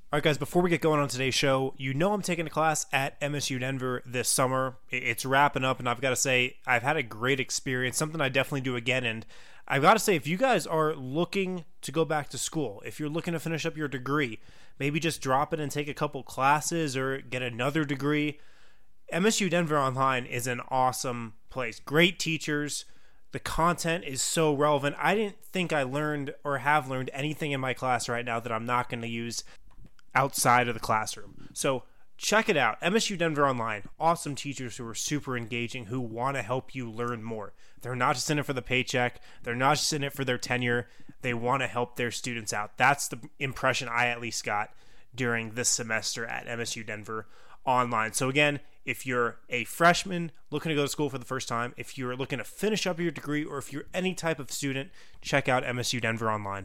All right, guys, before we get going on today's show, you know I'm taking a class at MSU Denver this summer. It's wrapping up, and I've got to say, I've had a great experience, something I definitely do again. And I've got to say, if you guys are looking to go back to school, if you're looking to finish up your degree, maybe just drop it and take a couple classes or get another degree, MSU Denver Online is an awesome place. Great teachers. The content is so relevant. I didn't think I learned or have learned anything in my class right now that I'm not going to use outside of the classroom. So check it out. MSU Denver Online. Awesome teachers who are super engaging, who want to help you learn more. They're not just in it for the paycheck. They're not just in it for their tenure. They want to help their students out. That's the impression I at least got during this semester at MSU Denver Online. So again, if you're a freshman looking to go to school for the first time, if you're looking to finish up your degree, or if you're any type of student, check out MSU Denver Online.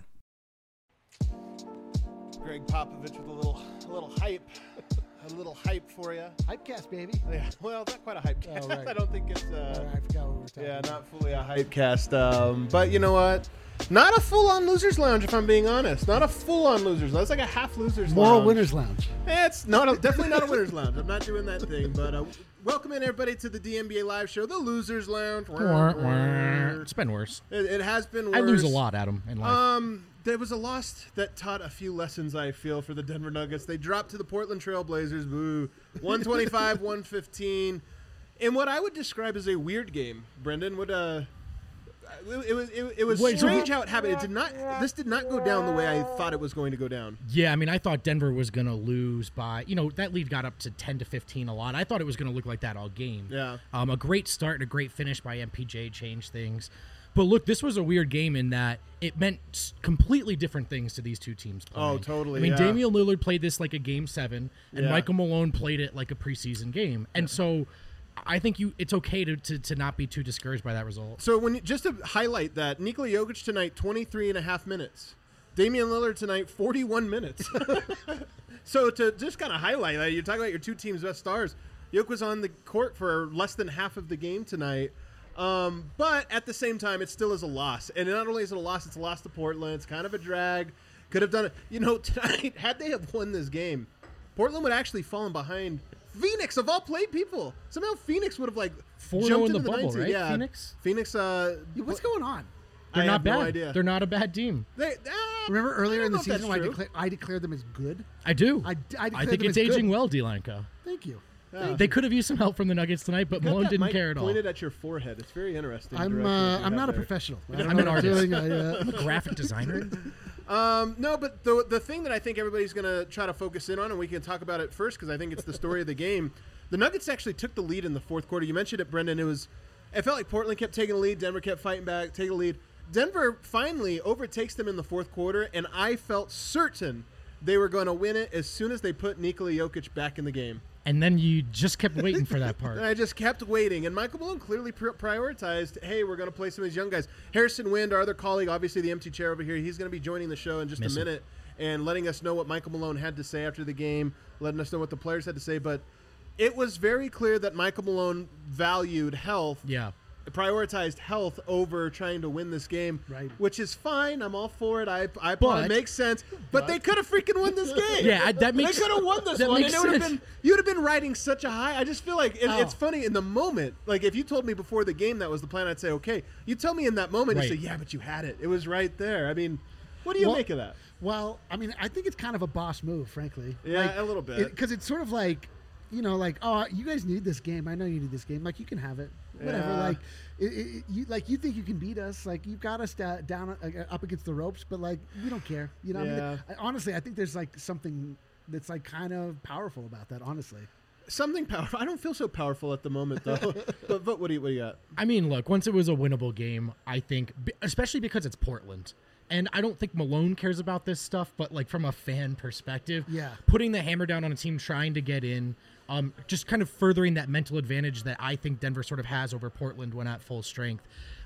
Greg Popovich with a little hype. A little hype for you. Hypecast, baby. Yeah, well, not quite a hypecast. Oh, right. I don't think it's... I forgot what we were talking about. not fully a hypecast. But you know what? Not a full-on Losers Lounge, if I'm being honest. Not a full-on Losers Lounge. It's like a half Losers Lounge. Moral Winners Lounge. It's definitely not a Winners Lounge. I'm not doing that thing. But welcome in, everybody, to the DNBA Live Show, the Losers Lounge. It's been worse. It has been worse. I lose a lot, Adam, in life. There was a loss that taught a few lessons, I feel, for the Denver Nuggets. They dropped to the Portland Trail Blazers, boo, 125-115, in what I would describe as a weird game. Brendan, it was strange how it happened. This did not go down the way I thought it was going to go down. Yeah, I mean, I thought Denver was going to lose by, that lead got up to 10-15 a lot. I thought it was going to look like that all game. Yeah. A great start and a great finish by MPJ changed things. But look, this was a weird game in that it meant completely different things to these two teams playing. Oh, totally. I mean, yeah. Damian Lillard played this like a Game 7, and Yeah. Michael Malone played it like a preseason game. And so I think it's okay to not be too discouraged by that result. So just to highlight that, Nikola Jokic tonight, 23 and a half minutes. Damian Lillard tonight, 41 minutes. So to just kind of highlight that, you're talking about your two teams' best stars. Jokic was on the court for less than half of the game tonight. But at the same time, it still is a loss. And not only is it a loss, it's a loss to Portland. It's kind of a drag. Could have done it. Tonight, had they have won this game, Portland would actually fallen behind Phoenix, of all played people. Somehow Phoenix would have, 4-0 jumped in the into bubble, 19. right? Yeah. Phoenix? What's going on? They're I not have bad. no idea. They're not a bad team. Remember earlier I in don't the know if season that's when true. I declared them as good? I do. I I think it's aging well, Delanco. Thank you. Yeah. They could have used some help from the Nuggets tonight, but Got Malone that didn't mic care at all. pointed at your forehead. It's very interesting. I'm direction that you I'm have not a there. professional. I'm an artist. I I'm a graphic designer. No, but the thing that I think everybody's going to try to focus in on, and we can talk about it first because I think it's the story of the game, the Nuggets actually took the lead in the fourth quarter. You mentioned it, Brendan. It felt like Portland kept taking the lead. Denver kept fighting back, taking the lead. Denver finally overtakes them in the fourth quarter, and I felt certain they were going to win it as soon as they put Nikola Jokic back in the game. And then you just kept waiting for that part. And I just kept waiting. And Michael Malone clearly prioritized, hey, we're going to play some of these young guys. Harrison Wind, our other colleague, obviously the empty chair over here, he's going to be joining the show in just a minute and letting us know what Michael Malone had to say after the game, letting us know what the players had to say. But it was very clear that Michael Malone valued health. Yeah. Prioritized health over trying to win this game, Right. Which is fine. I'm all for it. I it makes sense. But they could have freaking won this game. Yeah, that makes They could have won this that one. makes And sense. you'd have been riding such a high. I just feel like it's Oh. funny in the moment. Like if you told me before the game that was the plan, I'd say okay. You tell me in that moment, Right. you say yeah, but you had it. It was right there. I mean, what do you make of that? Well, I mean, I think it's kind of a boss move, frankly. Yeah, a little bit. Because it's sort of like, oh, you guys need this game. I know you need this game. Like, you can have it. Whatever. Yeah. You think you can beat us. Like, you've got us down up against the ropes, but, like, we don't care. You know what I mean? Honestly, I think there's, like, something that's, like, kind of powerful about that, honestly. Something powerful. I don't feel so powerful at the moment, though. but what do you got? I mean, look, once it was a winnable game, I think, especially because it's Portland. And I don't think Malone cares about this stuff, but like from a fan perspective, putting the hammer down on a team trying to get in, just kind of furthering that mental advantage that I think Denver sort of has over Portland when at full strength.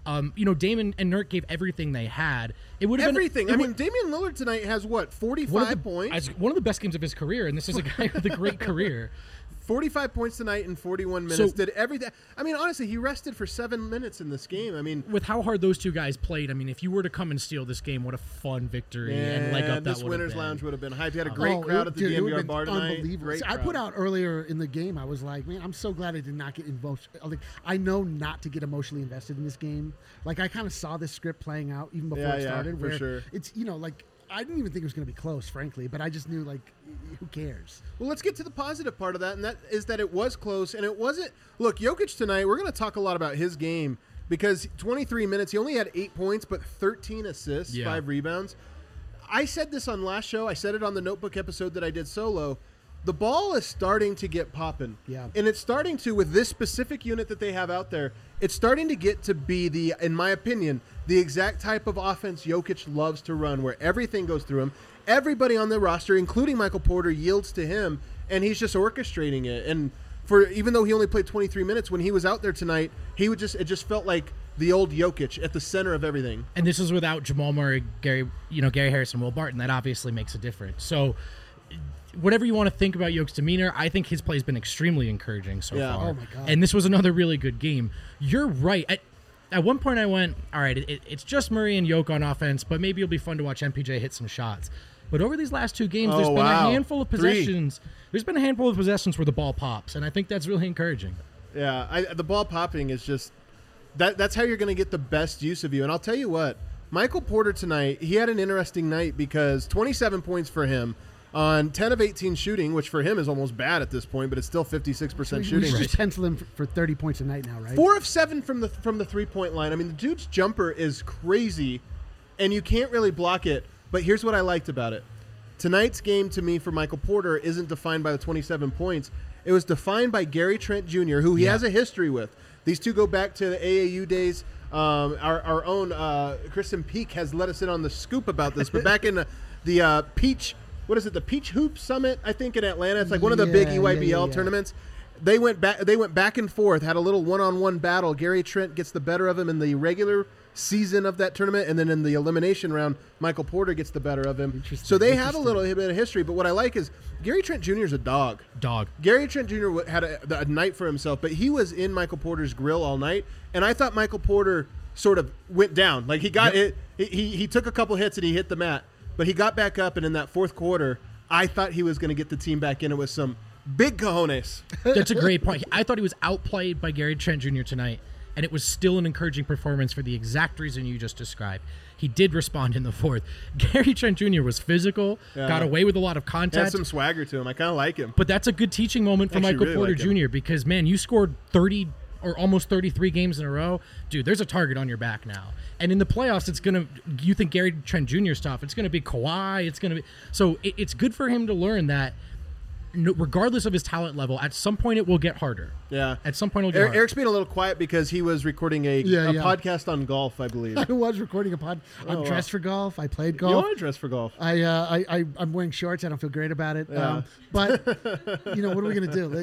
Damon and Nurk gave everything they had. It would have everything. Been, Damian Lillard tonight has 45 points, one of the best games of his career, and this is a guy with a great career. 45 points tonight in 41 minutes. Did everything. I mean, honestly, he rested for 7 minutes in this game. I mean, with how hard those two guys played, I mean, if you were to come and steal this game, what a fun victory and leg up that this Winners Lounge would have been hyped. You had a great crowd at the DNVR bar tonight. Great I put out earlier in the game, I was like, man, I'm so glad I did not get involved. Like, I know not to get emotionally invested in this game. Like, I kind of saw this script playing out even before it started. For sure. It's, like, I didn't even think it was going to be close, frankly, but I just knew, like, who cares? Well, let's get to the positive part of that, and that is that it was close, and it wasn't. Look, Jokic tonight, we're going to talk a lot about his game because 23 minutes, he only had 8 points, but 13 assists, 5 rebounds. I said this on last show. I said it on the Notebook episode that I did solo. The ball is starting to get popping. Yeah. And it's starting to, with this specific unit that they have out there, it's starting to get to be the, in my opinion, the exact type of offense Jokic loves to run, where everything goes through him. Everybody on the roster, including Michael Porter, yields to him, and he's just orchestrating it. And even though he only played 23 minutes, when he was out there tonight, it just felt like the old Jokic at the center of everything. And this is without Jamal Murray, Gary Harris, and Will Barton. That obviously makes a difference. So whatever you want to think about Jokic's demeanor, I think his play has been extremely encouraging so far. Oh my God. And this was another really good game. You're right. At one point I went, all right, it's just Murray and Jokic on offense, but maybe it'll be fun to watch MPJ hit some shots. But over these last 2 games, there's been a handful of possessions. There's been a handful of possessions where the ball pops, and I think that's really encouraging. Yeah, the ball popping is just that's how you're going to get the best use of you. And I'll tell you what, Michael Porter tonight, he had an interesting night because 27 points for him on 10 of 18 shooting, which for him is almost bad at this point, but it's still 56% shooting. We should just pencil him for 30 points a night now, right? 4 of 7 from the 3-point line. I mean, the dude's jumper is crazy, and you can't really block it. But here's what I liked about it. Tonight's game, to me, for Michael Porter, isn't defined by the 27 points. It was defined by Gary Trent Jr., who he has a history with. These two go back to the AAU days. Our own Kristen Peak has let us in on the scoop about this. But back in the Peach, what is it, the Peach Hoop Summit, I think, in Atlanta. It's like one of the big EYBL tournaments. They went back and forth, had a little one-on-one battle. Gary Trent gets the better of him in the regular season of that tournament, and then in the elimination round, Michael Porter gets the better of him. So they have a little bit of history, but what I like is Gary Trent Jr. is a dog. Gary Trent Jr. had a night for himself, but he was in Michael Porter's grill all night, and I thought Michael Porter sort of went down. Like he got it. He took a couple hits and he hit the mat, but he got back up, and in that fourth quarter, I thought he was going to get the team back in it with some big cojones. That's a great point. I thought he was outplayed by Gary Trent Jr. tonight, and it was still an encouraging performance for the exact reason you just described. He did respond in the fourth. Gary Trent Jr. was physical, got away with a lot of contact. Had some swagger to him. I kind of like him. But that's a good teaching moment for Michael Porter Jr. because, man, you scored 30 or almost 33 games in a row. Dude, there's a target on your back now. And in the playoffs, you think Gary Trent Jr. stuff, it's going to be Kawhi. So it's good for him to learn that regardless of his talent level, at some point it will get harder. Yeah. At some point it'll get harder. Eric's being a little quiet because he was recording a podcast on golf, I believe. I was recording a pod. I'm dressed for golf. I played golf. You are dressed for golf. I'm wearing shorts. I don't feel great about it. Yeah. But, what are we going to do?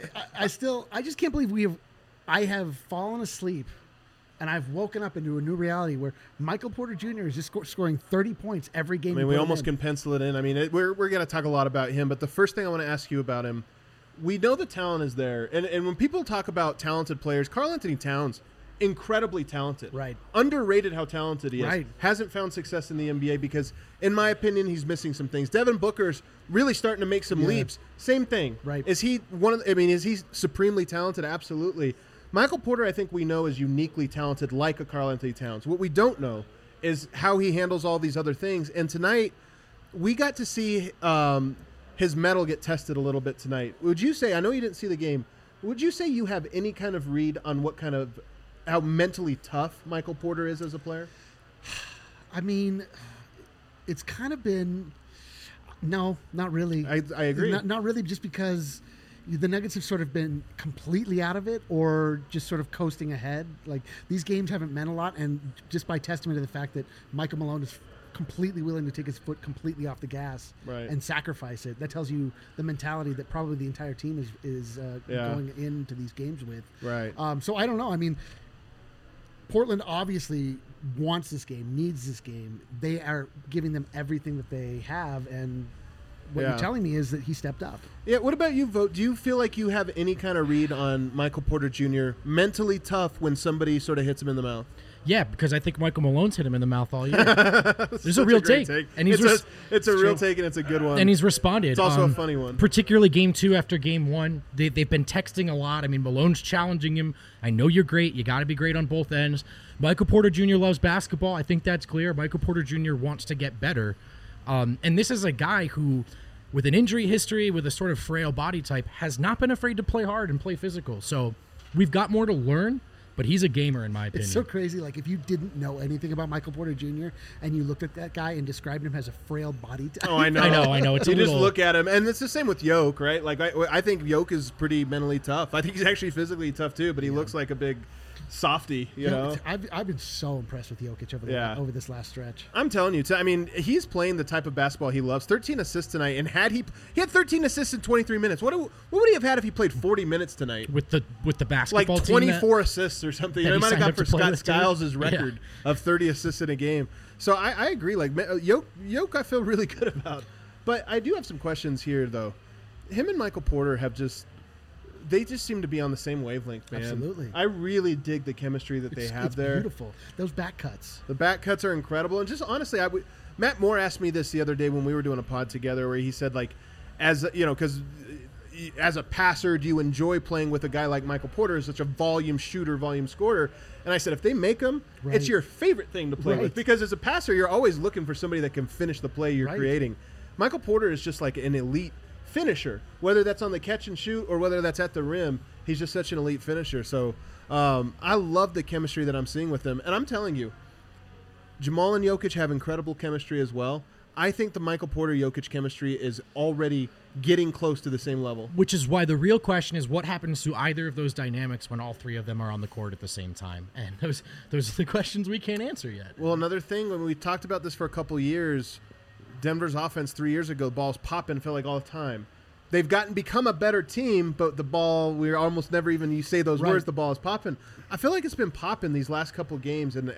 I just can't believe I have fallen asleep and I've woken up into a new reality where Michael Porter Jr. is just scoring 30 points every game. I mean, we almost can pencil it in. I mean, we're going to talk a lot about him, but the first thing I want to ask you about him, we know the talent is there. And when people talk about talented players, Karl-Anthony Towns, incredibly talented. Right. Underrated how talented he is. Right. Hasn't found success in the NBA because, in my opinion, he's missing some things. Devin Booker's really starting to make some leaps. Same thing. Right. Is he is he supremely talented? Absolutely. Michael Porter, I think we know, is uniquely talented like a Karl-Anthony Towns. What we don't know is how he handles all these other things. And tonight, we got to see his mettle get tested a little bit tonight. Would you say, I know you didn't see the game, would you say you have any kind of read on how mentally tough Michael Porter is as a player? I mean, it's kind of been, no, not really. I agree. Not really, just because the Nuggets have sort of been completely out of it or just sort of coasting ahead. Like, these games haven't meant a lot, and just by testament to the fact that Michael Malone is completely willing to take his foot completely off the gas and sacrifice it. That tells you the mentality that probably the entire team is going into these games with. Right. So I don't know. I mean, Portland obviously wants this game, needs this game. They are giving them everything that they have, and what you're telling me is that he stepped up. Yeah. What about you, Vogt? Do you feel like you have any kind of read on Michael Porter Jr. mentally tough when somebody sort of hits him in the mouth? Yeah, because I think Michael Malone's hit him in the mouth all year. There's a real take. And he's it's a real take, and it's a good one. And he's responded. It's also a funny one. Particularly Game 2 after Game 1. They've been texting a lot. I mean, Malone's challenging him. I know you're great. You got to be great on both ends. Michael Porter Jr. loves basketball. I think that's clear. Michael Porter Jr. wants to get better. And this is a guy who, with an injury history, with a sort of frail body type, has not been afraid to play hard and play physical. So we've got more to learn. But he's a gamer, in my opinion. It's so crazy. Like, if you didn't know anything about Michael Porter Jr. and you looked at that guy and described him as a frail body type. Oh, I know. I know. It's you just look at him, and it's the same with Yoke, right? Like, I think Yoke is pretty mentally tough. I think he's actually physically tough, too, but he looks like a big softy, you know? I've been so impressed with Jokic over this last stretch. I'm telling you, I mean, he's playing the type of basketball he loves. 13 assists tonight, and he had 13 assists in 23 minutes. What would he have had if he played 40 minutes tonight? With the basketball like 24 assists or something. You know, he might have got for Scott Skiles' record of 30 assists in a game. So I agree. Like, Yoke I feel really good about. But I do have some questions here, though. Him and Michael Porter they just seem to be on the same wavelength, man. Absolutely. I really dig the chemistry that they have there. It's beautiful. Those back cuts. The back cuts are incredible. And just honestly, Matt Moore asked me this the other day when we were doing a pod together, where he said, like, because as a passer, do you enjoy playing with a guy like Michael Porter, such a volume shooter, volume scorer? And I said, if they make him, it's your favorite thing to play with. Because as a passer, you're always looking for somebody that can finish the play you're creating. Michael Porter is just like an elite finisher, whether that's on the catch and shoot or whether that's at the rim. He's just such an elite finisher. So I love the chemistry that I'm seeing with them. And I'm telling you, Jamal and Jokic have incredible chemistry as well. I think the Michael Porter-Jokic chemistry is already getting close to the same level. Which is why the real question is what happens to either of those dynamics when all three of them are on the court at the same time. And those are the questions we can't answer yet. Well, another thing, when we talked about this for a couple years, Denver's offense 3 years ago, the ball's popping, felt like all the time. They've become a better team, but the ball, we're almost never even, you say those words, the ball is popping. I feel like it's been popping these last couple games, and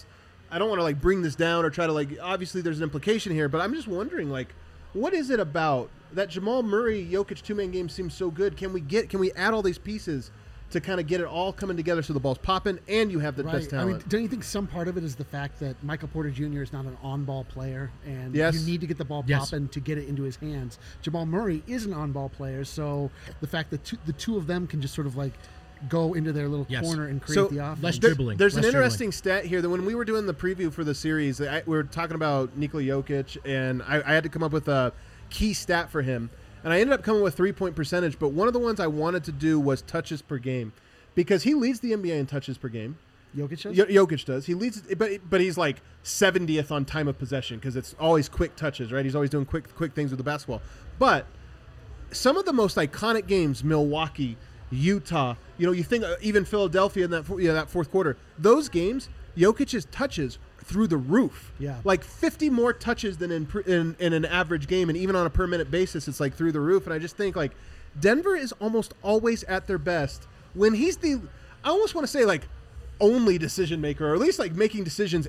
I don't want to, like, bring this down or try to, like, obviously there's an implication here, but I'm just wondering, like, what is it about that Jamal Murray Jokic two-man game seems so good? Can we add all these pieces to kind of get it all coming together so the ball's popping and you have the best talent? I mean, don't you think some part of it is the fact that Michael Porter Jr. is not an on-ball player, and you need to get the ball popping to get it into his hands? Jamal Murray is an on-ball player, so the fact that the two of them can just sort of, like, go into their little corner and create the offense. Less dribbling. There's an interesting stat here that when we were doing the preview for the series, we were talking about Nikola Jokic, and I had to come up with a key stat for him. And I ended up coming with 3-point percentage, but one of the ones I wanted to do was touches per game, because he leads the NBA in touches per game. Jokic does? Jokic does. He leads, but he's like 70th on time of possession because it's always quick touches, right? He's always doing quick things with the basketball. But some of the most iconic games, Milwaukee, Utah, you think even Philadelphia in that fourth quarter, those games, Jokic's touches through the roof. Yeah. Like 50 more touches than in an average game, and even on a per minute basis, it's like through the roof. And I just think, like, Denver is almost always at their best when he's I almost want to say, like, only decision maker, or at least, like, making decisions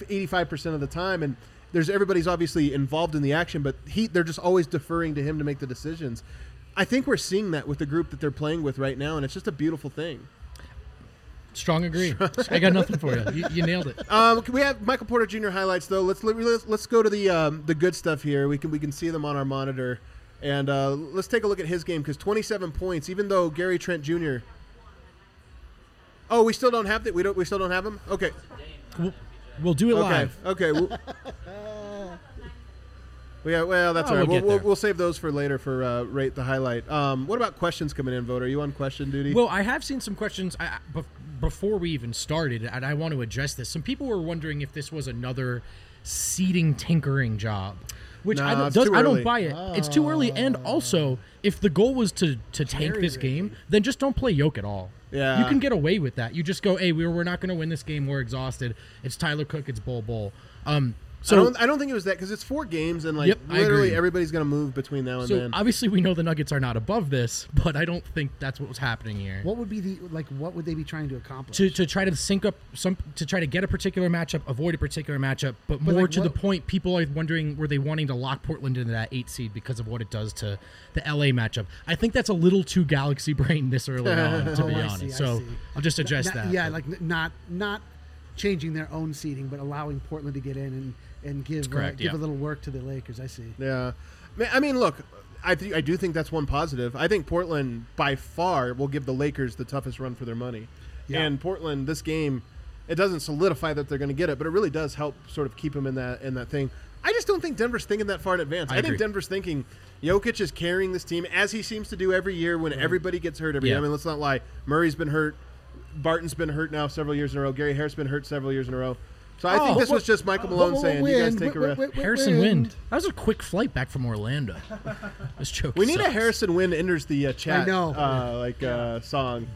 85% of the time. And everybody's obviously involved in the action, but they're just always deferring to him to make the decisions. I think we're seeing that with the group that they're playing with right now, and it's just a beautiful thing. Strong agree. I got nothing for you. You nailed it. We have Michael Porter Jr. highlights, though. Let's go to the good stuff here. We can see them on our monitor, and let's take a look at his game, because 27 points, even though Gary Trent Jr. Oh, we still don't have that. We still don't have him. Okay, we'll do it live. Okay. Well, that's all right. We'll save those for later for rate the highlight. What about questions coming in, Vogt? Are you on question duty? Well, I have seen some questions before we even started, and I want to address this. Some people were wondering if this was another seeding tinkering job, which I don't buy it. It's too early, and also, if the goal was to tank this game, then just don't play Jokic at all. Yeah. You can get away with that. You just go, hey, we're not going to win this game. We're exhausted. It's Tyler Cook. It's Bol Bol. So I don't think it was that because it's 4 games and Yep, I literally agree. everybody's going to move between now and So then. obviously we know the Nuggets are not above this, but I don't think that's what was happening here. What would be what would they be trying to accomplish? To try to sync up to try to get a particular matchup, avoid a particular matchup, but more like to the what- point, people are wondering, were they wanting to lock Portland into that 8 seed because of what it does to the LA matchup? I think that's a little too galaxy brain this early on, to be I honest. see. So I'll just address that. Yeah, but- like not changing their own seating, but allowing Portland to get in and give correct, give yeah. a little work to the Lakers. I see. Yeah. I mean, look, I do think that's one positive. I think Portland, by far, will give the Lakers the toughest run for their money. Yeah. And Portland, this game, it doesn't solidify that they're going to get it, but it really does help sort of keep them in that thing. I just don't think Denver's thinking that far in advance. I think agree. Denver's thinking Jokic is carrying this team, as he seems to do every year when everybody gets hurt every year. Yeah. I mean, let's not lie. Murray's been hurt. Barton's been hurt now several years in a row. Gary Harris been hurt several years in a row. So I think this was just Michael Malone saying, you guys take a rest. Harrison Wind. That was a quick flight back from Orlando. This joke We need a sucks. Harrison Wind enters the chat I know. song.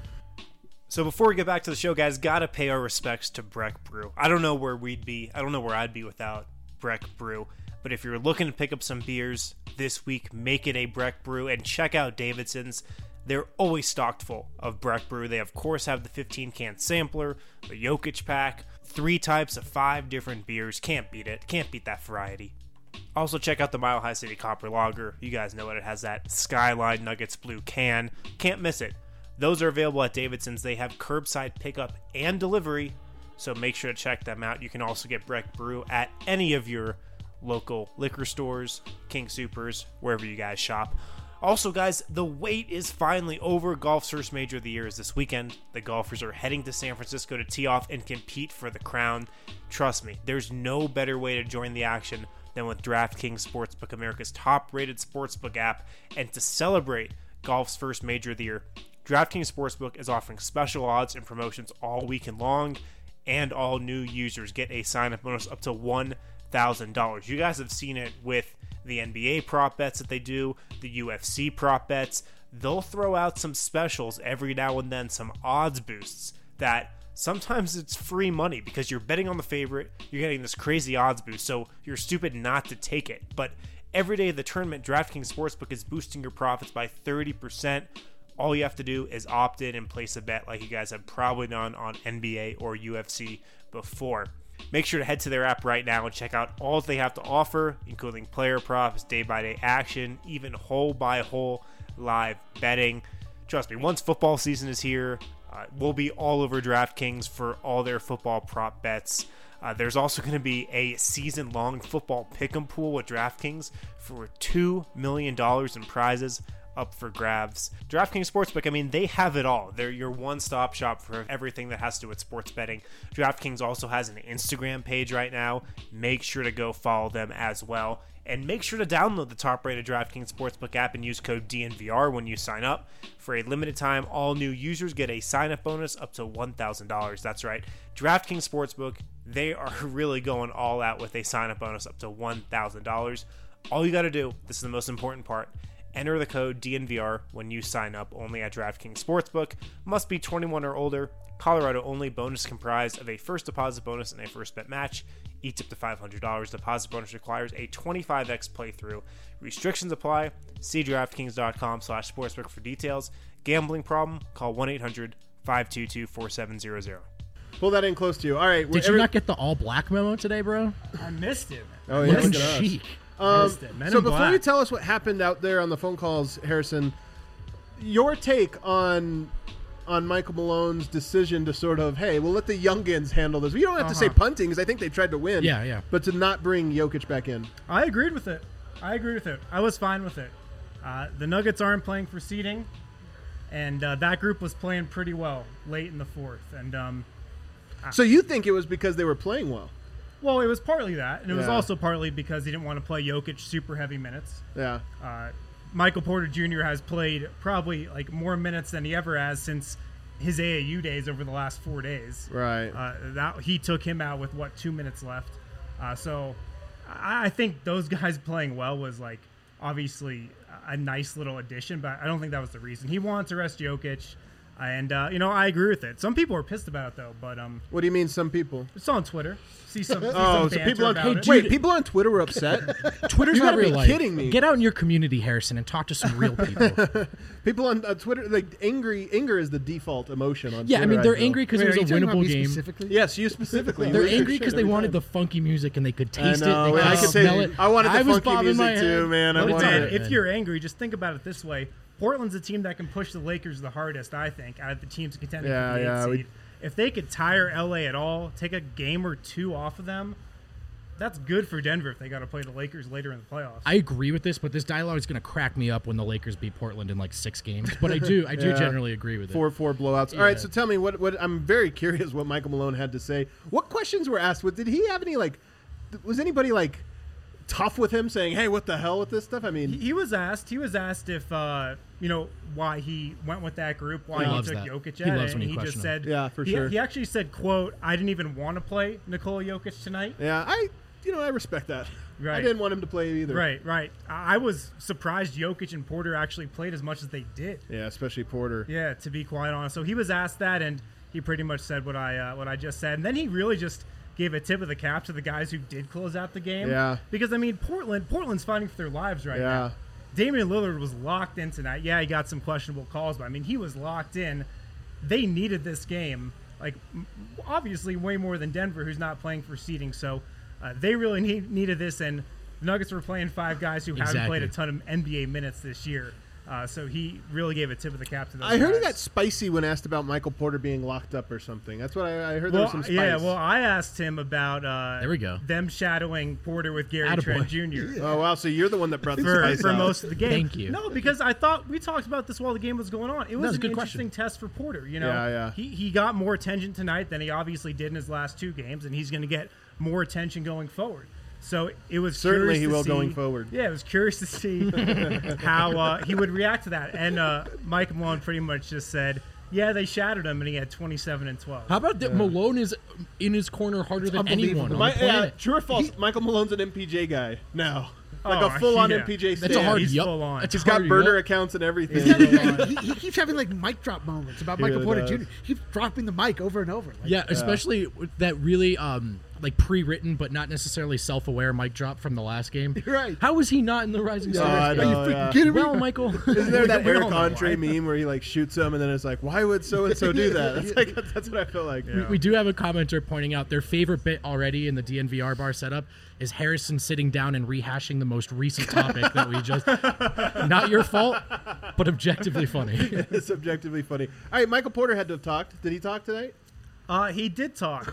So before we get back to the show, guys, gotta pay our respects to Breck Brew. I don't know where we'd be. I don't know where I'd be without Breck Brew. But if you're looking to pick up some beers this week, make it a Breck Brew and check out Davidson's. They're always stocked full of Breck Brew. They, of course, have the 15-can sampler, the Jokic pack, 3 types of 5 different beers. Can't beat it. Can't beat that variety. Also, check out the Mile High City Copper Lager. You guys know it. It has that Skyline Nuggets blue can. Can't miss it. Those are available at Davidson's. They have curbside pickup and delivery, so make sure to check them out. You can also get Breck Brew at any of your local liquor stores, King Supers, wherever you guys shop. Also, guys, the wait is finally over. Golf's first major of the year is this weekend. The golfers are heading to San Francisco to tee off and compete for the crown. Trust me, there's no better way to join the action than with DraftKings Sportsbook, America's top-rated sportsbook app. And to celebrate golf's first major of the year, DraftKings Sportsbook is offering special odds and promotions all weekend long, and all new users get a sign-up bonus up to $1,000. You guys have seen it with the NBA prop bets that they do, the UFC prop bets. They'll throw out some specials every now and then, some odds boosts that sometimes it's free money because you're betting on the favorite, you're getting this crazy odds boost, so you're stupid not to take it. But every day of the tournament, DraftKings Sportsbook is boosting your profits by 30%. All you have to do is opt in and place a bet like you guys have probably done on NBA or UFC before. Make sure to head to their app right now and check out all they have to offer, including player props, day-by-day action, even hole-by-hole live betting. Trust me, once football season is here, we'll be all over DraftKings for all their football prop bets. There's also going to be a season-long football pick'em pool with DraftKings for $2 million in prizes up for grabs. DraftKings Sportsbook, I mean, they have it all. They're your one-stop shop for everything that has to do with sports betting. DraftKings also has an Instagram page right now. Make sure to go follow them as well. And make sure to download the top-rated DraftKings Sportsbook app and use code DNVR when you sign up. For a limited time, all new users get a sign-up bonus up to $1,000. That's right. DraftKings Sportsbook, they are really going all out with a sign-up bonus up to $1,000. All you got to do, this is the most important part, enter the code DNVR when you sign up only at DraftKings Sportsbook. Must be 21 or older. Colorado only. Bonus comprised of a first deposit bonus and a first bet match. Each up to $500. Deposit bonus requires a 25x playthrough. Restrictions apply. See DraftKings.com/sportsbook for details. Gambling problem? Call 1-800-522-4700. Pull that in close to you. All right. Did you not get the all-black memo today, bro? I missed it. Oh, yeah. Looking Look at us. chic. Missed it. Men So in before Black. you tell us what happened out there on the phone calls, Harrison, your take on Michael Malone's decision to sort of, hey, we'll let the youngins handle this. You don't have to say punting because I think they tried to win. Yeah. But to not bring Jokic back in. I agreed with it. I was fine with it. The Nuggets aren't playing for seeding, and that group was playing pretty well late in the fourth. And So you think it was because they were playing well? well, it was partly that, and it was Yeah. also partly because he didn't want to play Jokic super heavy minutes. Yeah. Michael Porter Jr. has played probably like more minutes than he ever has since his AAU days over the last 4 days. Right. That he took him out with 2 minutes left. So I think those guys playing well was like obviously a nice little addition, but I don't think that was the reason. He wanted to rest Jokic. And I agree with it. Some people are pissed about it though, but What do you mean? Some people? it's on Twitter. See some. Oh, so people on people on Twitter were upset. Twitter's You not gotta be real life. kidding me. Get out in your community, Harrison, and talk to some real people. People on Twitter, like anger is the default emotion on Yeah, Twitter. I mean, they're feel. angry because Wait, it was are a you talking about winnable me game. specifically? Yes, you specifically. They're You lose your angry shit because they every wanted time. the funky music and they could I taste know, it. They I could could smell say it. I wanted the was funky bobbing my music too, head. man. I But it's wanted Man, it. if you're angry, just think about it this way. Portland's a team that can push the Lakers the hardest, I think, out of the teams contending Yeah, for the 8th yeah, seed. If they could tire LA at all, take a game or two off of them, that's good for Denver if they got to play the Lakers later in the playoffs. I agree with this, but this dialogue is going to crack me up when the Lakers beat Portland in like 6 games. But I do Yeah. generally agree with it. 4-4 blowouts. All right, Yeah. so tell me what I'm very curious what Michael Malone had to say. What questions were asked? Did he have any was anybody tough with him, saying, "Hey, what the hell with this stuff"? I mean, he was asked if why he went with that group, why He he loves took that. Jokic He at loves it, when and you he just question said, Yeah, for sure. He actually said, "quote I didn't even want to play Nikola Jokic tonight." yeah, I respect that. I Right. didn't want him to play either. Right. I was surprised Jokic and Porter actually played as much as they did. Yeah, especially Porter. Yeah, to be quite honest. So he was asked that, and he pretty much said what I just said, and then he really just gave a tip of the cap to the guys who did close out the game. Yeah. Because I mean, Portland's fighting for their lives right Yeah. now. Damian Lillard was locked in tonight. Yeah, he got some questionable calls, but I mean, he was locked in. They needed this game, obviously way more than Denver, who's not playing for seeding. So they really needed this, and the Nuggets were playing 5 guys who haven't played a ton of NBA minutes this year. So he really gave a tip of the cap to those I heard he guys. got spicy when asked about Michael Porter being locked up or something. That's what I heard. There was some spice. Yeah, well, I asked him about There we go. them shadowing Porter with Gary Attaboy. Trent Jr. Oh wow, so you're the one that brought the for, spice for out. most of the game. Thank you. No, because I thought we talked about this while the game was going on. It was it's a an good interesting question. test for Porter. Yeah. He got more attention tonight than he obviously did in his last 2 games, and he's going to get more attention going forward. So it was Certainly curious he to will see- going forward. Yeah, it was curious to see how he would react to that. And Mike Malone pretty much just said, "Yeah, they shattered him, and he had 27 and 12." How about that? Malone is in his corner harder than anyone on the planet. True or false? Michael Malone's an MPJ guy now. Like Oh, a full-on yeah. MPJ stand. That's a hard He's yup. full on. That's He's a got hard burner yup. accounts and everything. He keeps having mic drop moments about He Michael really Porter does. Jr. He keeps dropping the mic over and over. Yeah, especially with that really pre-written but not necessarily self-aware mic drop from the last game. Right. How was he not in the Rising I Stars? know, Are you yeah. freaking kidding me? Well, Michael. Isn't there that We all Eric know Andre why. meme where he shoots him and then it's like, why would so and so do that? That's what I feel like. We do have a commenter pointing out their favorite bit already in the DNVR bar setup is Harrison sitting down and rehashing the most recent topic that we just. Not your fault, but objectively funny. It's objectively funny. All right, Michael Porter had to have talked. Did he talk tonight? He did talk.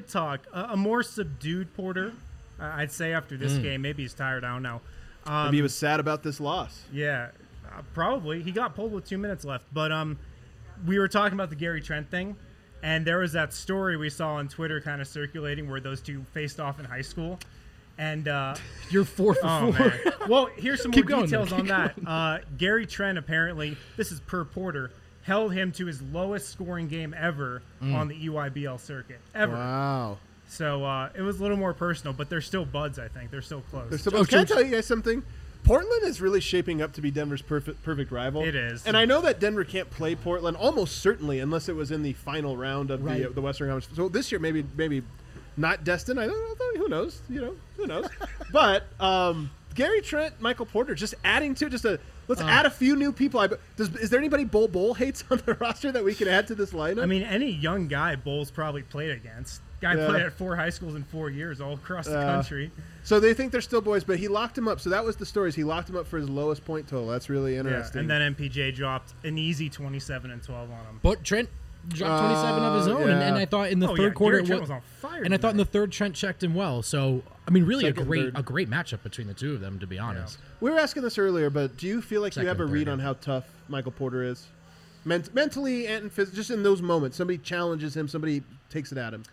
A more subdued Porter, I'd say, after this game. Maybe he's tired. I don't know. Maybe he was sad about this loss. Yeah, probably. He got pulled with 2 minutes left. But we were talking about the Gary Trent thing, and there was that story we saw on Twitter kind of circulating where those two faced off in high school. And You're 4 for 4. man. Well, here's some more Keep going, details though. on that. Gary Trent apparently, this is per Porter, held him to his lowest scoring game ever on the EYBL circuit. Ever. Wow. So it was a little more personal, but they're still buds, I think. They're still close. Can I tell you guys something? Portland is really shaping up to be Denver's perfect rival. It is. And I know that Denver can't play Portland almost certainly unless it was in the final round of the Western Conference. So this year maybe not destined. I don't know. Who knows? Who knows? But Gary Trent, Michael Porter, just adding to let's add a few new people. Is there anybody Bull hates on the roster that we can add to this lineup? I mean, any young guy Bulls probably played against. Guy played at 4 high schools in 4 years all across the country. So they think they're still boys, but he locked him up. So that was the story. He locked him up for his lowest point total. That's really interesting. And then MPJ dropped an easy 27 and 12 on him. But Trent dropped 27 of his own, and I thought in the third quarter, Gary Trent was on fire. and I thought in the third Trent checked him well. So I mean, really Second, third. a great matchup between the two of them, to be honest. We were asking this earlier, but do you feel like you have a Second, read third, on how tough Michael Porter is? Mentally and physically, just in those moments. Somebody challenges him, somebody takes it at him.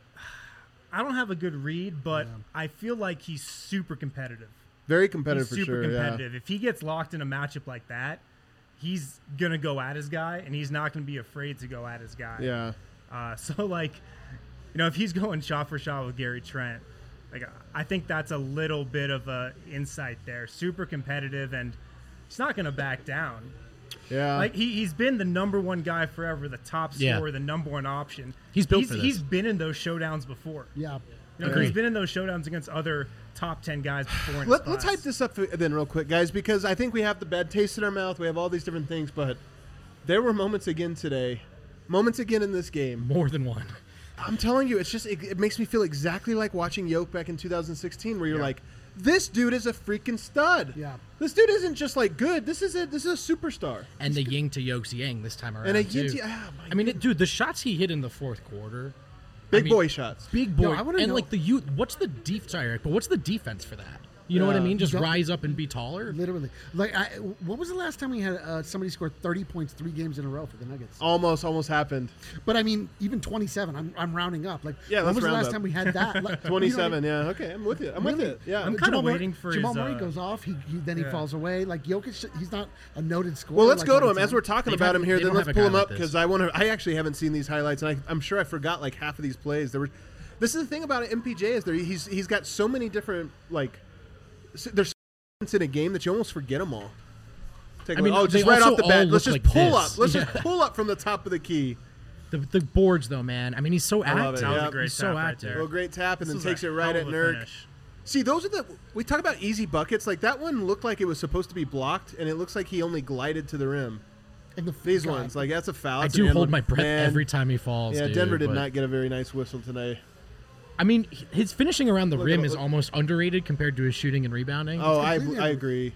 I don't have a good read, but I feel like he's super competitive. Very competitive He's for super sure. competitive. If he gets locked in a matchup like that, he's going to go at his guy, and he's not going to be afraid to go at his guy. Yeah. So, if he's going shot for shot with Gary Trent, I think that's a little bit of a insight there. Super competitive, and he's not going to back down. Yeah. Like he's been the number one guy forever, the top scorer, Yeah. the number one option. He's built for this. He's been in those showdowns before. Yeah. You know, he's been in those showdowns against other top 10 guys before. In his Let's class. hype this up then real quick, guys, because I think we have the bad taste in our mouth. We have all these different things, but there were moments again today, moments again in this game. More than one. I'm telling you, it's just it makes me feel exactly like watching Yoke back in 2016, where you're like, this dude is a freaking stud. Yeah. This dude isn't just like good. This is a superstar. And the yin to Yoke's yang this time around. And a too. yin to- I mean, dude, the shots he hit in the fourth quarter. Big I mean, boy shots. Big boy. No, I wanna and know- like the youth. What's the sorry, Eric, but what's the defense for that? You know what I mean? Just Don't- rise up and be taller. Literally. Like, what was the last time we had somebody score 30 points 3 games in a row for the Nuggets? Almost happened. But I mean, even 27. I'm rounding up. Like, Yeah, when let's was the round last up. time we had that? Like, 27. you know, Yeah. Okay. I'm with you. I'm with it. Yeah. I'm kinda Jamal Murray- waiting for Jamal his, Murray goes off. He Yeah. falls away. Like Jokic, he's not a noted scorer. Well, let's like go to on him the as team. we're talking They about him here. they Then don't let's have a pull guy him like up this. because I actually haven't seen these highlights, and I'm sure I forgot like half of these plays. This is the thing about MPJ is he's got so many different there's in a game that you almost forget them all. Take a I mean, look. they Just right also off the bat, all let's look just like pull this. up. Let's Yeah. just pull up from the top of the key. The boards though, man. I mean, he's so I love active. it. That was Yeah. a great He's so tap right active. there. Little great tap, and This then was takes a it right hell at of a Nurk. finish. See, those are we talk about easy buckets. Like that one looked like it was supposed to be blocked, and it looks like he only glided to the rim. And the These God, ones, like that's a foul. I That's do an hold end my one. breath Man. every time he falls. Yeah, dude, Denver did but- not get a very nice whistle tonight. I mean, his finishing around the Look rim at- is look- almost underrated compared to his shooting and rebounding. Oh, I completely agree.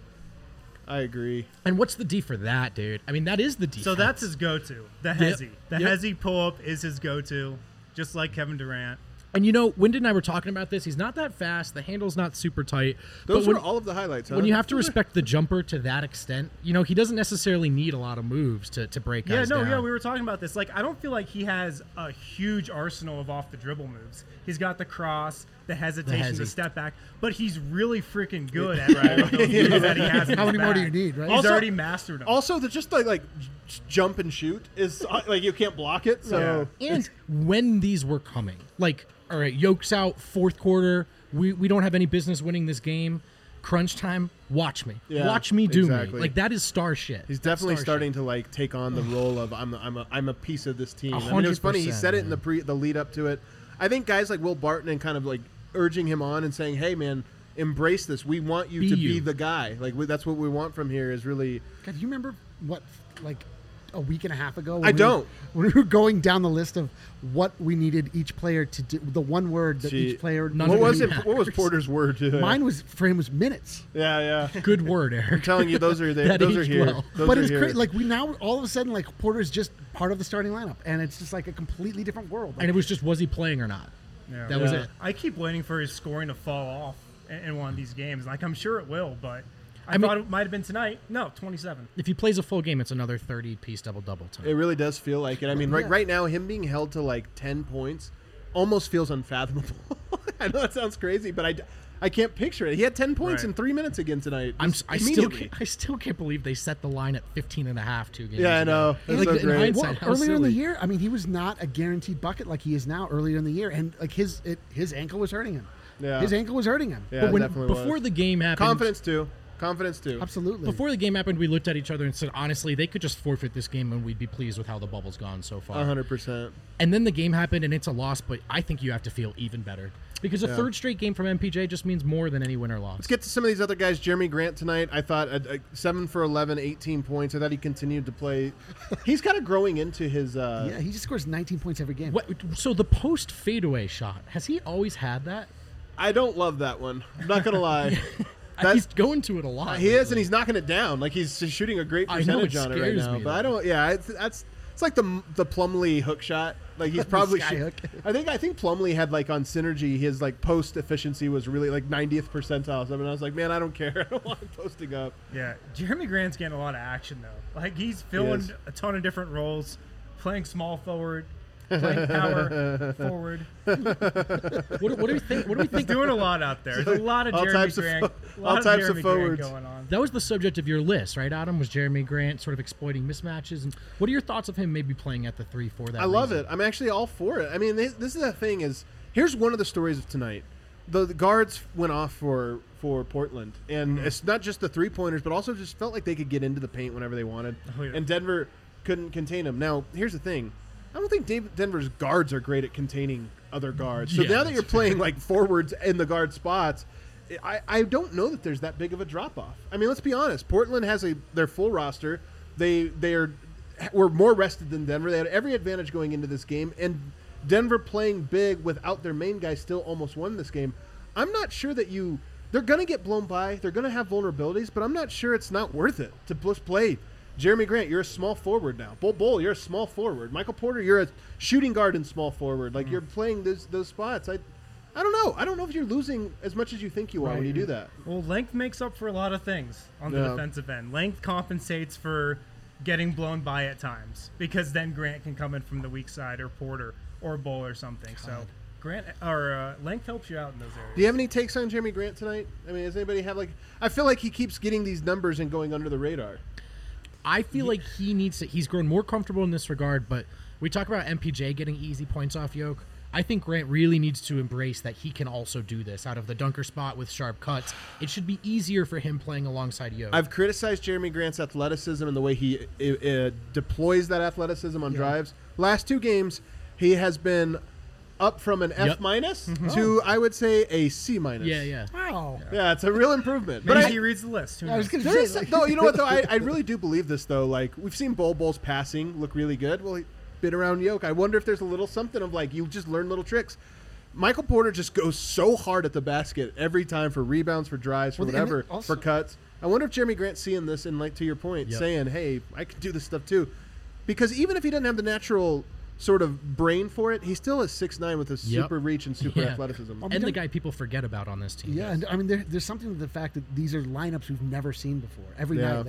I agree. And what's the D for that, dude? I mean, that is the defense. So that's his go-to. The Hezzy. The Yep. Hezzy pull-up is his go-to, just like Kevin Durant. And you know, Wyndon and I were talking about this. He's not that fast. The handle's not super tight. Those but were all of the highlights. Huh? when you have to respect the jumper to that extent, you know, he doesn't necessarily need a lot of moves to break guys down. We were talking about this. Like, I don't feel like he has a huge arsenal of off-the-dribble moves. He's got the cross, the hesitation, the hezzy. step back, but he's really freaking good at those moves that he has. in How his many more do bag. you need, right? He's Also- already mastered them. Also, the just like jump and shoot is like you can't block it. So And when these were coming, like, all right, Yoke's out, fourth quarter. We don't have any business winning this game. Crunch time. Watch me. Yeah, Watch me do exactly. me. Like, that is star shit. he's That's definitely star starting shit. to like take on the role of I'm a piece of this team. I mean, it was funny. He 100%, said it in man. the lead up to it. I think guys like Will Barton and kind of like urging him on and saying, "Hey, man, embrace this. We want you Be to be you." the guy. Like that's what we want from here. Is really God, do you remember what, like, a week and a half ago? I don't. When we were going down the list of what we needed each player to do, the one word that Gee, each player. None what of was it it? What was matters. Porter's word? Mine was for him was minutes. Yeah. Good word, Eric. I'm telling you, those are there. That Those are aged here. well. Those But are it's here. great. Like we now all of a sudden like Porter's just part of the starting lineup, and it's just like a completely different world. And it was just, was he playing or not? Yeah. That was Yeah. it. I keep waiting for his scoring to fall off in one of these games. Like, I'm sure it will, but I mean- thought it might have been tonight. No, 27. If he plays a full game, it's another 30-piece double-double time. It really does feel like it. I mean, Yeah. right now, him being held to like 10 points almost feels unfathomable. I know that sounds crazy, but I can't picture it. He had 10 points Right. in 3 minutes again tonight. I just still immediately. can't believe they set the line at 15 and a half 2 games Yeah, I ago. know. That's Like, so in great. hindsight, Well, how earlier in the silly. year, I mean, he was not a guaranteed bucket like he is now. Earlier in the year, and like his ankle was hurting him. Yeah. His ankle was hurting him. Yeah, But it when, definitely before was. the game happened, Confidence too. Absolutely. Before the game happened, we looked at each other and said, honestly, they could just forfeit this game and we'd be pleased with how the bubble's gone so far. 100%. And then the game happened and it's a loss, but I think you have to feel even better. Because a third straight game from MPJ just means more than any win or loss. Let's get to some of these other guys. Jeremy Grant tonight, I thought 7 for 11, 18 points. I thought he continued to play. He's kind of growing into his. yeah, he just scores 19 points every game. So the post fadeaway shot, has he always had that? I don't love that one. I'm not gonna lie. He's going to it a lot. He is, and lately. he's knocking it down. Like he's shooting a great I know, percentage it on it right scares now. me, But I though. don't. Yeah, it's like the Plumlee hook shot. Like he's probably. Sky hook. I think Plumlee had like on Synergy, his like post efficiency was really like 90th percentile. Or something. I was like, man, I don't care. I don't want him posting up. Yeah, Jeremy Grant's getting a lot of action, though. Like, he's filling is. a ton of different roles, playing small forward, playing power forward. What do we think? What do we He's think? doing a lot out there. There's a lot of All Jeremy types of Grant, fo- a lot all of types of Jeremy Grant forwards. going on. That was the subject of your list, right, Adam? Was Jeremy Grant sort of exploiting mismatches? And what are your thoughts of him maybe playing at the 3 for that? I love reason? it. I'm actually all for it. I mean, this is the thing is, here's one of the stories of tonight. the guards went off for Portland, and it's not just the 3-pointers, but also just felt like they could get into the paint whenever they wanted, and Denver couldn't contain them. Now, here's the thing. I don't think Denver's guards are great at containing other guards. So now that you're playing like forwards in the guard spots, I don't know that there's that big of a drop-off. I mean, let's be honest. Portland has their full roster. Were more rested than Denver. They had every advantage going into this game, and Denver playing big without their main guy still almost won this game. I'm not sure that they're going to get blown by. They're going to have vulnerabilities, but I'm not sure it's not worth it to just play. Jeremy Grant, you're a small forward now. Bull, you're a small forward. Michael Porter, you're a shooting guard and small forward. Like, you're playing those spots. I don't know. I don't know if you're losing as much as you think you are when you do that. Well, length makes up for a lot of things on the defensive end. Length compensates for getting blown by at times, because then Grant can come in from the weak side, or Porter or Bull or something. So Grant or length helps you out in those areas. Do you have any takes on Jeremy Grant tonight? I mean, does anybody have I feel like he keeps getting these numbers and going under the radar. I feel like he needs to. He's grown more comfortable in this regard, but we talk about MPJ getting easy points off Yoke. I think Grant really needs to embrace that he can also do this out of the dunker spot with sharp cuts. It should be easier for him playing alongside Yoke. I've criticized Jeremy Grant's athleticism and the way he deploys that athleticism on drives. Last 2 games, he has been up from an F- to, I would say, a C-. Yeah. Wow. Yeah, it's a real improvement. Maybe But he reads the list. Who I was knows? going to say, no, you know what, though? I really do believe this, though. Like, we've seen Bull's passing look really good. Well, he's been around Yoke. I wonder if there's a little something of, you just learn little tricks. Michael Porter just goes so hard at the basket every time for rebounds, for drives, for whatever, for cuts. I wonder if Jeremy Grant's seeing this and, to your point, saying, hey, I can do this stuff too. Because even if he doesn't have the natural sort of brain for it, he still is 6'9" with a super reach and super athleticism. And the guy people forget about on this team. Yeah, and I mean, there's something to the fact that these are lineups we've never seen before. Every night,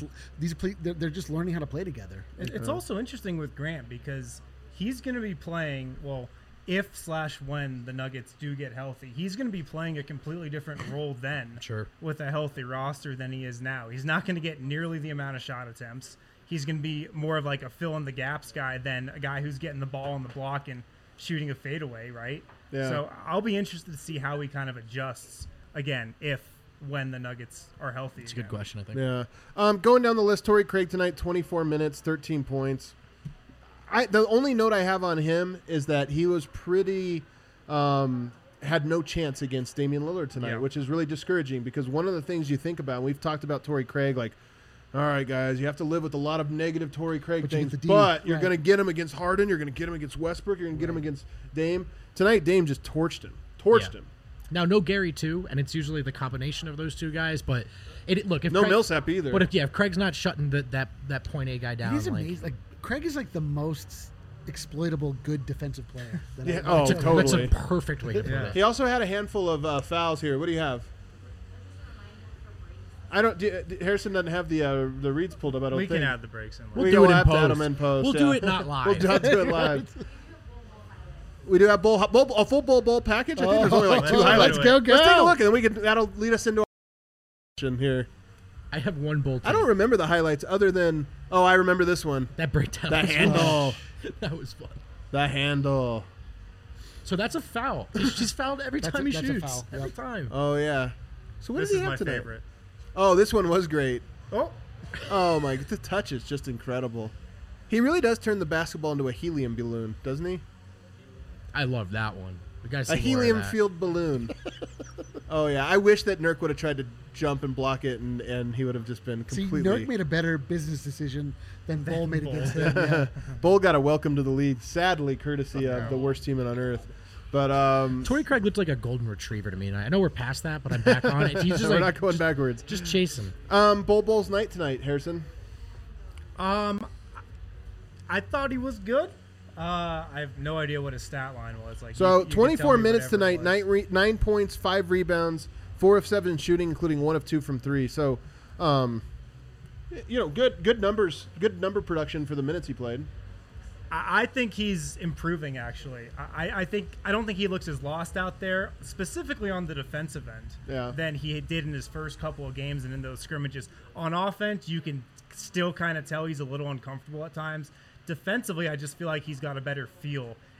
they're just learning how to play together. It's also interesting with Grant, because he's going to be playing, if/when the Nuggets do get healthy, he's going to be playing a completely different role then with a healthy roster than he is now. He's not going to get nearly the amount of shot attempts. He's going to be more of a fill-in-the-gaps guy than a guy who's getting the ball on the block and shooting a fadeaway, right? Yeah. So I'll be interested to see how he kind of adjusts, again, when the Nuggets are healthy. It's a good question, I think. Yeah. Going down the list, Torrey Craig tonight, 24 minutes, 13 points. The only note I have on him is that he was pretty had no chance against Damian Lillard tonight, which is really discouraging, because one of the things you think about, and we've talked about Torrey Craig, all right, guys, you have to live with a lot of negative Torrey Craig things, but you're going to get him against Harden, you're going to get him against Westbrook, you're going to get him against Dame. Tonight, Dame just torched him. Now, no Gary, too, and it's usually the combination of those two guys, but if no Millsap either. But if Craig's not shutting that point A guy down. He's amazing. Craig is the most exploitable good defensive player. Totally. That's a perfect way to put it. He also had a handful of fouls here. What do you have? Harrison doesn't have the reads pulled up. I don't think. We can add the breaks in. We'll do it in post. We'll do it not live. We'll do it live. We do have a full bowl package. I think there's only 2 highlights. Let's go. Let's take a look, and then that'll lead us into our here. I have one bowl. I don't remember the highlights other than I remember this one. That breakdown. The handle. That was fun. The handle. So that's a foul. She's fouled every time he shoots. Every time. Oh yeah. So what does he have have today? Favorite. Oh, this one was great. Oh my! The touch is just incredible. He really does turn the basketball into a helium balloon, doesn't he? I love that one. We got a helium-filled balloon. Oh yeah, I wish that Nurk would have tried to jump and block it, and he would have just been completely. See, Nurk made a better business decision than Bull made against him. Yeah. Bull got a welcome to the league, sadly, courtesy of the worst team on earth. But Torrey Craig looked like a golden retriever to me. And I know we're past that, but I'm back on it. He's just we're not going backwards. Just chasing. Bull's night tonight, Harrison. I thought he was good. I have no idea what his stat line was. So 24 minutes tonight, 9 points, 5 rebounds, 4 of 7 shooting, including 1 of 2 from 3. So, good numbers, good number production for the minutes he played. I think he's improving, actually. I don't think he looks as lost out there, specifically on the defensive end, than he did in his first couple of games and in those scrimmages. On offense, you can still kind of tell he's a little uncomfortable at times. Defensively, I just feel like he's got a better feel.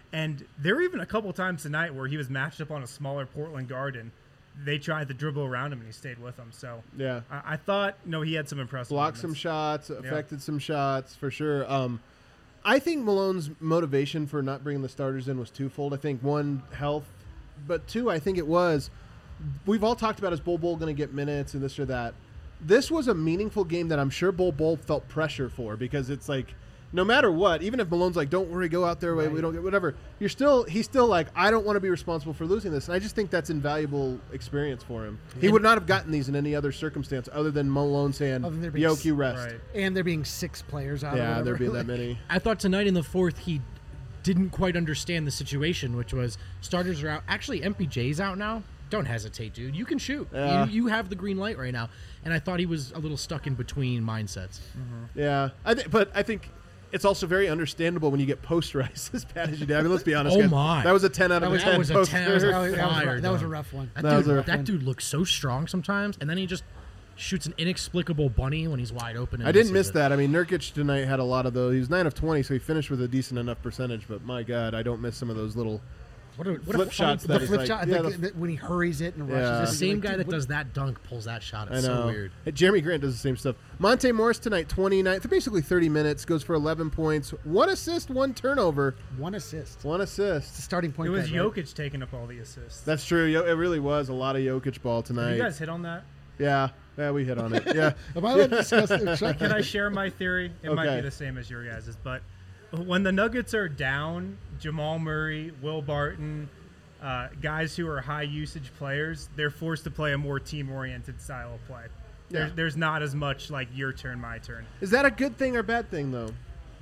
And there were even a couple times tonight where he was matched up on a smaller Portland guard, and they tried to dribble around him, and he stayed with them. So Yeah. I thought, he had some impressive Blocked some moments. shots, affected some shots for sure. I think Malone's motivation for not bringing the starters in was twofold. I think one, health, but two, I think it was, we've all talked about, is Bol Bol going to get minutes and this or that. This was a meaningful game that I'm sure Bol Bol felt pressure for, because it's like, no matter what, even if Malone's like, don't worry, go out there, we don't get whatever, he's still like, I don't want to be responsible for losing this. And I just think that's invaluable experience for him. He would not have gotten these in any other circumstance other than Malone saying, Yoke, you rest. Right. And there being 6 players out. Yeah, or there'd be whatever. that many. I thought tonight in the fourth he didn't quite understand the situation, which was starters are out. Actually, MPJ's out now. Don't hesitate, dude. You can shoot. Yeah. You have the green light right now. And I thought he was a little stuck in between mindsets. Yeah, but I think it's also very understandable when you get posterized as bad as you did. I mean, let's be honest. Oh guys. my. That was a 10 out of 10. That was a 10. That was a rough one. That dude looks so strong sometimes, and then he just shoots an inexplicable bunny when he's wide open. And I didn't miss misses it. that. I mean, Nurkic tonight had a lot of those. He was 9 of 20, so he finished with a decent enough percentage. But my God, I don't miss some of those little flip shots. The That flip is shot, like, when he hurries it and Yeah. rushes. The it, same like, guy dude, that what- does that dunk pulls that shot. I It's know. so weird. Hey, Jeremy Grant does the same stuff. Monte Morris tonight, 29, basically 30 minutes, goes for 11 points, 1 assist, 1 turnover, 1 assist. 1 assist. It's the starting point. It was guard, right? Jokic taking up all the assists. That's true. It really was a lot of Jokic ball Did tonight. you guys hit on that? Yeah, we hit on it. Yeah. Am I allowed to discuss it? Can I share my theory? It might Okay. be the same as your guys's, but when the Nuggets are down, Jamal Murray, Will Barton, guys who are high usage players, they're forced to play a more team-oriented style of play. Yeah. There's not as much like your turn, my turn. Is that a good thing or bad thing, though?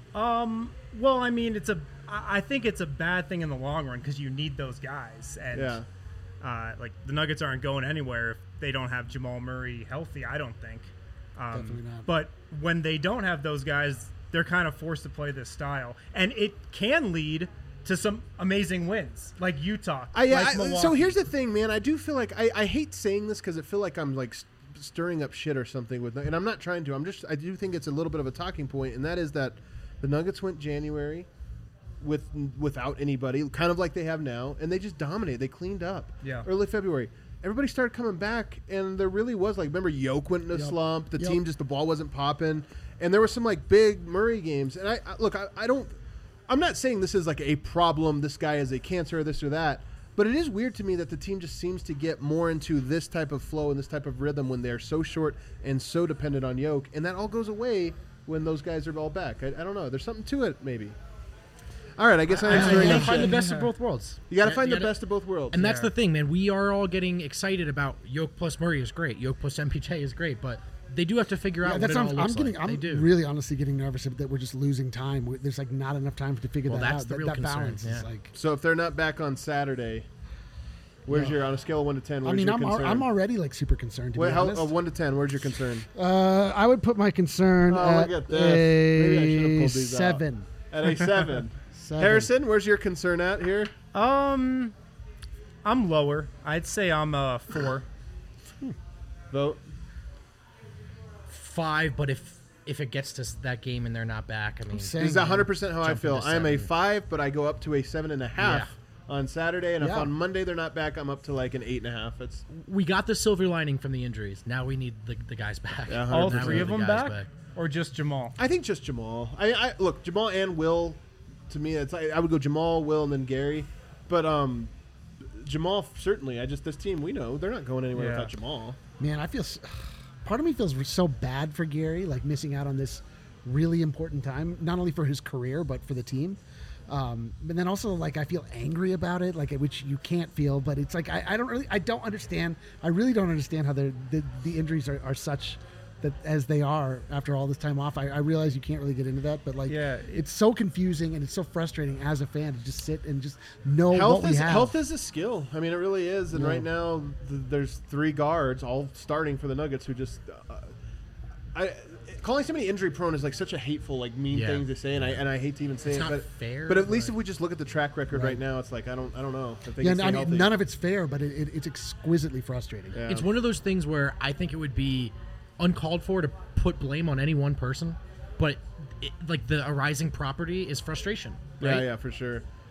Well, I mean, I think it's a bad thing in the long run because you need those guys, and Yeah. like the Nuggets aren't going anywhere if they don't have Jamal Murray healthy. I don't think. Definitely not. But when they don't have those guys, they're kind of forced to play this style, and it can lead to some amazing wins, like Utah. like So Milwaukee. here's the thing, man. I do feel like I hate saying this because I feel like I'm like stirring up shit or something with, and I'm not trying to. I do think it's a little bit of a talking point, and that is that the Nuggets went January without anybody, kind of like they have now, and they just dominated. They cleaned up. Yeah. Early February, everybody started coming back, and there really was like, remember Yoke went in a slump. The team just the ball wasn't popping, and there were some like big Murray games. And I don't. I'm not saying this is like a problem. This guy is a cancer, or this or that. But it is weird to me that the team just seems to get more into this type of flow and this type of rhythm when they're so short and so dependent on Yoke, and that all goes away when those guys are all back. I don't know. There's something to it, maybe. All right, I guess I You answered gotta enough find the shit. best of both worlds. You got to find the best of both worlds. And that's the thing, man. We are all getting excited about Yoke plus Murray is great. Yoke plus MPJ is great, but they do have to figure out what it all looks like. They do. really honestly getting nervous that we're just losing time. There's like not enough time to figure that that's out. the real that concern, balance is yeah. like. So if they're not back on Saturday, where's your on a scale of 1 to 10? Where's I mean, your I'm concern? already like super concerned. To be honest. 1 to 10, where's your concern? I would put my concern Look at this. Maybe I should have a pulled these out. 7. At a 7. 7. Harrison, where's your concern at here? I'm lower. I'd say I'm 4. Vote. 5, but if it gets to that game and they're not back, I mean, saying- This is 100% how I Jump feel. into I am a 7. 5, but I go up to a 7.5 Yeah. on Saturday, and if Yeah. on Monday they're not back, I'm up to like an 8.5. It's we got the silver lining from the injuries. Now we need the guys back. Yeah, All 100%. 3 of The them guys back, or just Jamal? I think just Jamal. I look, Jamal and Will. To me, it's I would go Jamal, Will, and then Gary. But Jamal certainly. This team we know they're not going anywhere Yeah. without Jamal. Man, I feel. Part of me feels so bad for Gary, like missing out on this really important time, not only for his career but for the team. But then also, like, I feel angry about it, like, which you can't feel. But it's like I don't understand. I really don't understand how the injuries are such that as they are after all this time off. I realize you can't really get into that, but like, Yeah, it's so confusing and it's so frustrating as a fan to just sit and just know what we have. Health is a skill. I mean, it really is. And Yeah. right now, there's 3 guards all starting for the Nuggets who just. Calling somebody injury prone is like such a hateful, like mean Yeah. thing to say, and I hate to even say It's it. not But fair, But at least but- if we just look at the track record right, Right. now, it's like I don't know. If they Yeah, can stay I mean, healthy. none of it's fair, but it's exquisitely frustrating. Yeah. It's one of those things where I think it would be uncalled for to put blame on any one person, but like the arising property is frustration. Right? Yeah, for sure.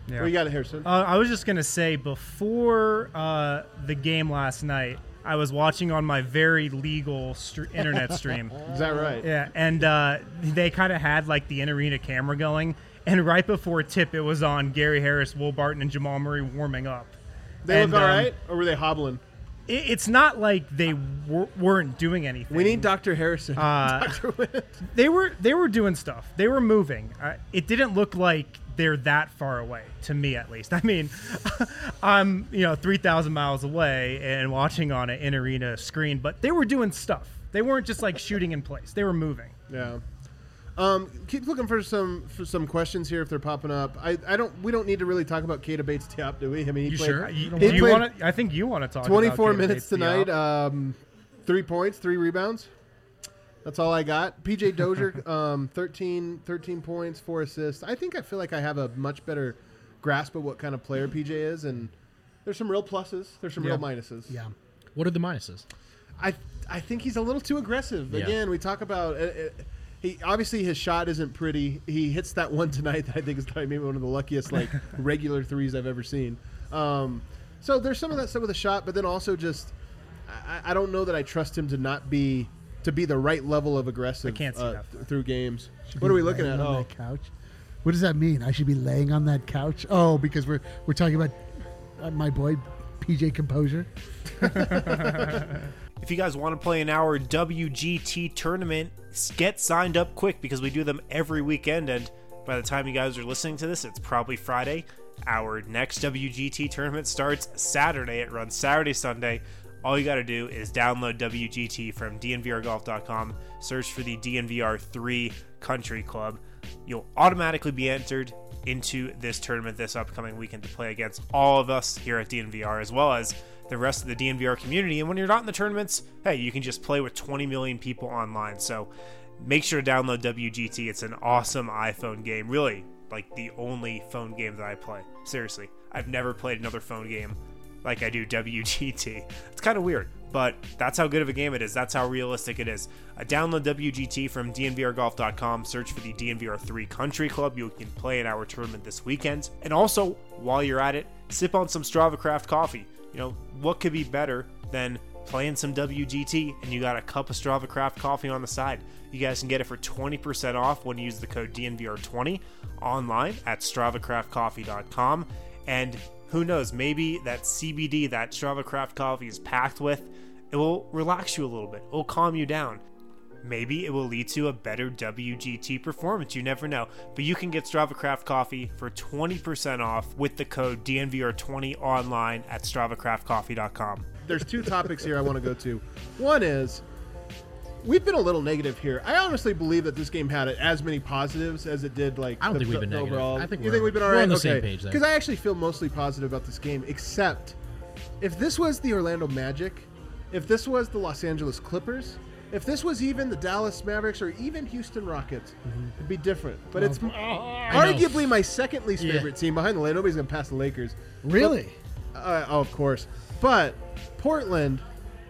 What you got, Harrison? I was just gonna say before the game last night, I was watching on my very legal internet stream. Is that right? Yeah, and they kind of had like the in-arena camera going, and right before tip, it was on Gary Harris, Will Barton, and Jamal Murray warming up. They look all right, or were they hobbling? It's not like they weren't doing anything. We need Dr. Harrison. Dr. They were doing stuff. They were moving. It didn't look like they're that far away, to me at least. I mean, I'm 3,000 miles away and watching on an in-arena screen, but they were doing stuff. They weren't just like shooting in place. They were moving. Yeah. Keep looking for some questions here if they're popping up. We don't need to really talk about Keita Bates-Diop, do we? I mean, he played. Sure? I think you want to talk. 24 about minutes tonight. 3 points, 3 rebounds. That's all I got. PJ Dozier, 13 points, 4 assists. I feel like I have a much better grasp of what kind of player PJ is, and there's some real pluses. There's some real minuses. Yeah. What are the minuses? I think he's a little too aggressive. Yeah. Again, we talk about he obviously his shot isn't pretty. He hits that one tonight that I think is probably maybe one of the luckiest regular threes I've ever seen. So there's some of that stuff with the shot, but then also just I don't know that I trust him to be the right level of aggressive. I can't see that through games. What are we looking at? On that couch. What does that mean? I should be laying on that couch? Oh, because we're talking about my boy PJ Composure. If you guys want to play in our WGT tournament, get signed up quick because we do them every weekend, and by the time you guys are listening to this, it's probably Friday. Our next WGT tournament starts Saturday. It runs Saturday, Sunday. All you got to do is download WGT from dnvrgolf.com, search for the DNVR 3 Country Club. You'll automatically be entered into this tournament this upcoming weekend to play against all of us here at DNVR, as well as the rest of the DNVR community. And when you're not in the tournaments, hey, you can just play with 20 million people online. So make sure to download WGT. It's an awesome iPhone game. Really, like the only phone game that I play. Seriously, I've never played another phone game like I do WGT. It's kind of weird, but that's how good of a game it is. That's how realistic it is. Download WGT from dnvrgolf.com. Search for the DNVR 3 Country Club. You can play in our tournament this weekend. And also, while you're at it, sip on some Strava Craft coffee. What could be better than playing some WGT and you got a cup of Strava Craft coffee on the side? You guys can get it for 20% off when you use the code DNVR20 online at StravaCraftCoffee.com. And who knows, maybe that CBD that Strava Craft coffee is packed with, it will relax you a little bit. It will calm you down. Maybe it will lead to a better WGT performance. You never know. But you can get Strava Craft coffee for 20% off with the code DNVR20 online at StravaCraftCoffee.com. There's 2 topics here I want to go to. One is, we've been a little negative here. I honestly believe that this game had as many positives as it did. I don't think we've been overall. negative. You think we've been all right? We're on the same page there. Because I actually feel mostly positive about this game, except if this was the Orlando Magic, if this was the Los Angeles Clippers, if this was even the Dallas Mavericks or even Houston Rockets, it'd be different. But it's arguably my second least favorite team behind the Lakers. Nobody's going to pass the Lakers. Really? Of course. But Portland,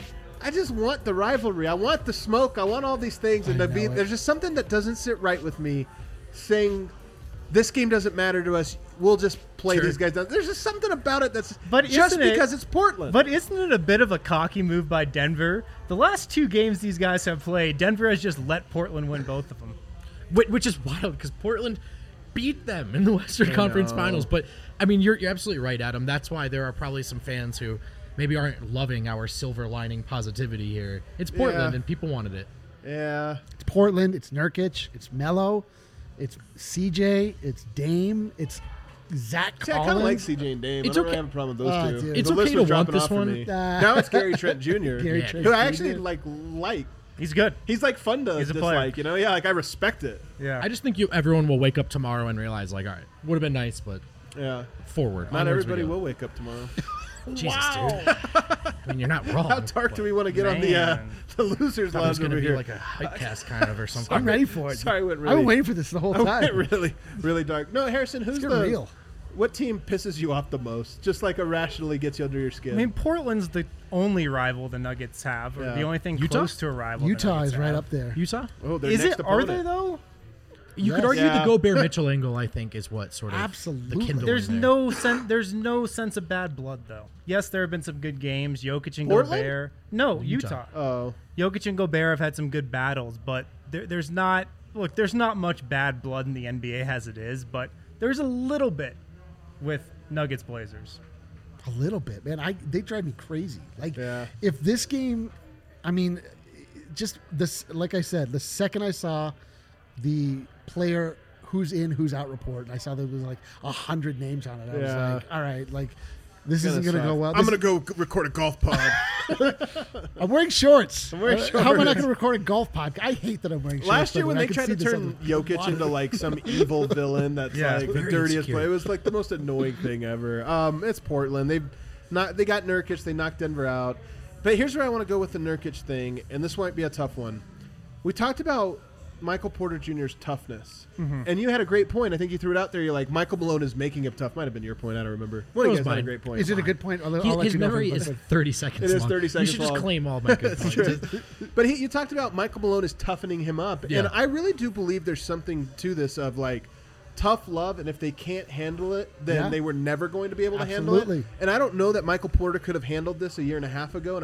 I just want the rivalry. I want the smoke. I want all these things. And there's just something that doesn't sit right with me saying this game doesn't matter to us. We'll just play these guys down. There's just something about it that's because it's Portland. But isn't it a bit of a cocky move by Denver? The last 2 games these guys have played, Denver has just let Portland win both of them. Which is wild because Portland beat them in the Western Conference Finals. But, I mean, you're absolutely right, Adam. That's why there are probably some fans who maybe aren't loving our silver lining positivity here. It's Portland, and people wanted it. Yeah. It's Portland. It's Nurkic. It's Melo. It's CJ. It's Dame. It's Zach Collins. I kind of like CJ and Dame. It's I don't have a problem with those 2. Dude. It's the okay list to was want dropping this off for one. me. Now it's Gary Trent Jr. Trent who I actually Jr. He's He's good. He's fun to He's a dislike, player. I respect it. Yeah. I just think everyone will wake up tomorrow and realize, all right, would have been nice, but forward. Not Onwards everybody we go. will wake up tomorrow. Jesus, dude. I mean, you're not wrong. How dark do we want to get on the losers I was lounge going to over be here? like a hypecast kind of or something. I'm ready for it. Sorry, I went really. I've been waiting for this the whole I time. went really, really dark. No, Harrison, who's It's getting real. What team pisses you off the most? Just irrationally gets you under your skin. I mean, Portland's the only rival the Nuggets have, or the only thing Utah? close to a rival. Utah the is Nuggets right have. up there. Utah? their Is next it? Are opponent. they though? You could argue the Gobert Mitchell angle, I think, is what sort of Absolutely. the kindling There's there. there's no sense of bad blood though. Yes, there have been some good games. Jokic and Portland? Gobert. No, Utah. Oh, Jokic and Gobert have had some good battles, but there's not much bad blood in the NBA as it is, but there's a little bit with Nuggets Blazers. A little bit, man. They drive me crazy. Like, Yeah. if this game, I mean, just this, like I said, the second I saw the player who's in, who's out report, and I saw there was like 100 names on it, I was Yeah. like, all right, like, this isn't going to go well. I'm going to go record a golf pod. I'm wearing shorts. I'm wearing How am I not shorts. going to record a golf podcast? I hate that I'm wearing shorts. Last year but when I they could tried see to this turn on the Jokic water. into like some evil villain that's Yeah, like the very dirtiest insecure. play, it was like the most annoying thing ever. It's Portland. They got Nurkic. They knocked Denver out. But here's where I want to go with the Nurkic thing, and this might be a tough one. We talked about Michael Porter Jr.'s toughness, and you had a great point. I think you threw it out there. You're like, Michael Malone is making him tough. Might have been your point. I don't remember. One of you was guys had a mine. great point. Is it a good point? I'll let His you know if memory I'm- is 30 seconds It is long. 30 seconds You should just long. claim all my good points. But you talked about Michael Malone is toughening him up, Yeah. and I really do believe there's something to this of like tough love, and if they can't handle it, then Yeah. they were never going to be able to handle it. Absolutely. And I don't know that Michael Porter could have handled this a year and a half ago, and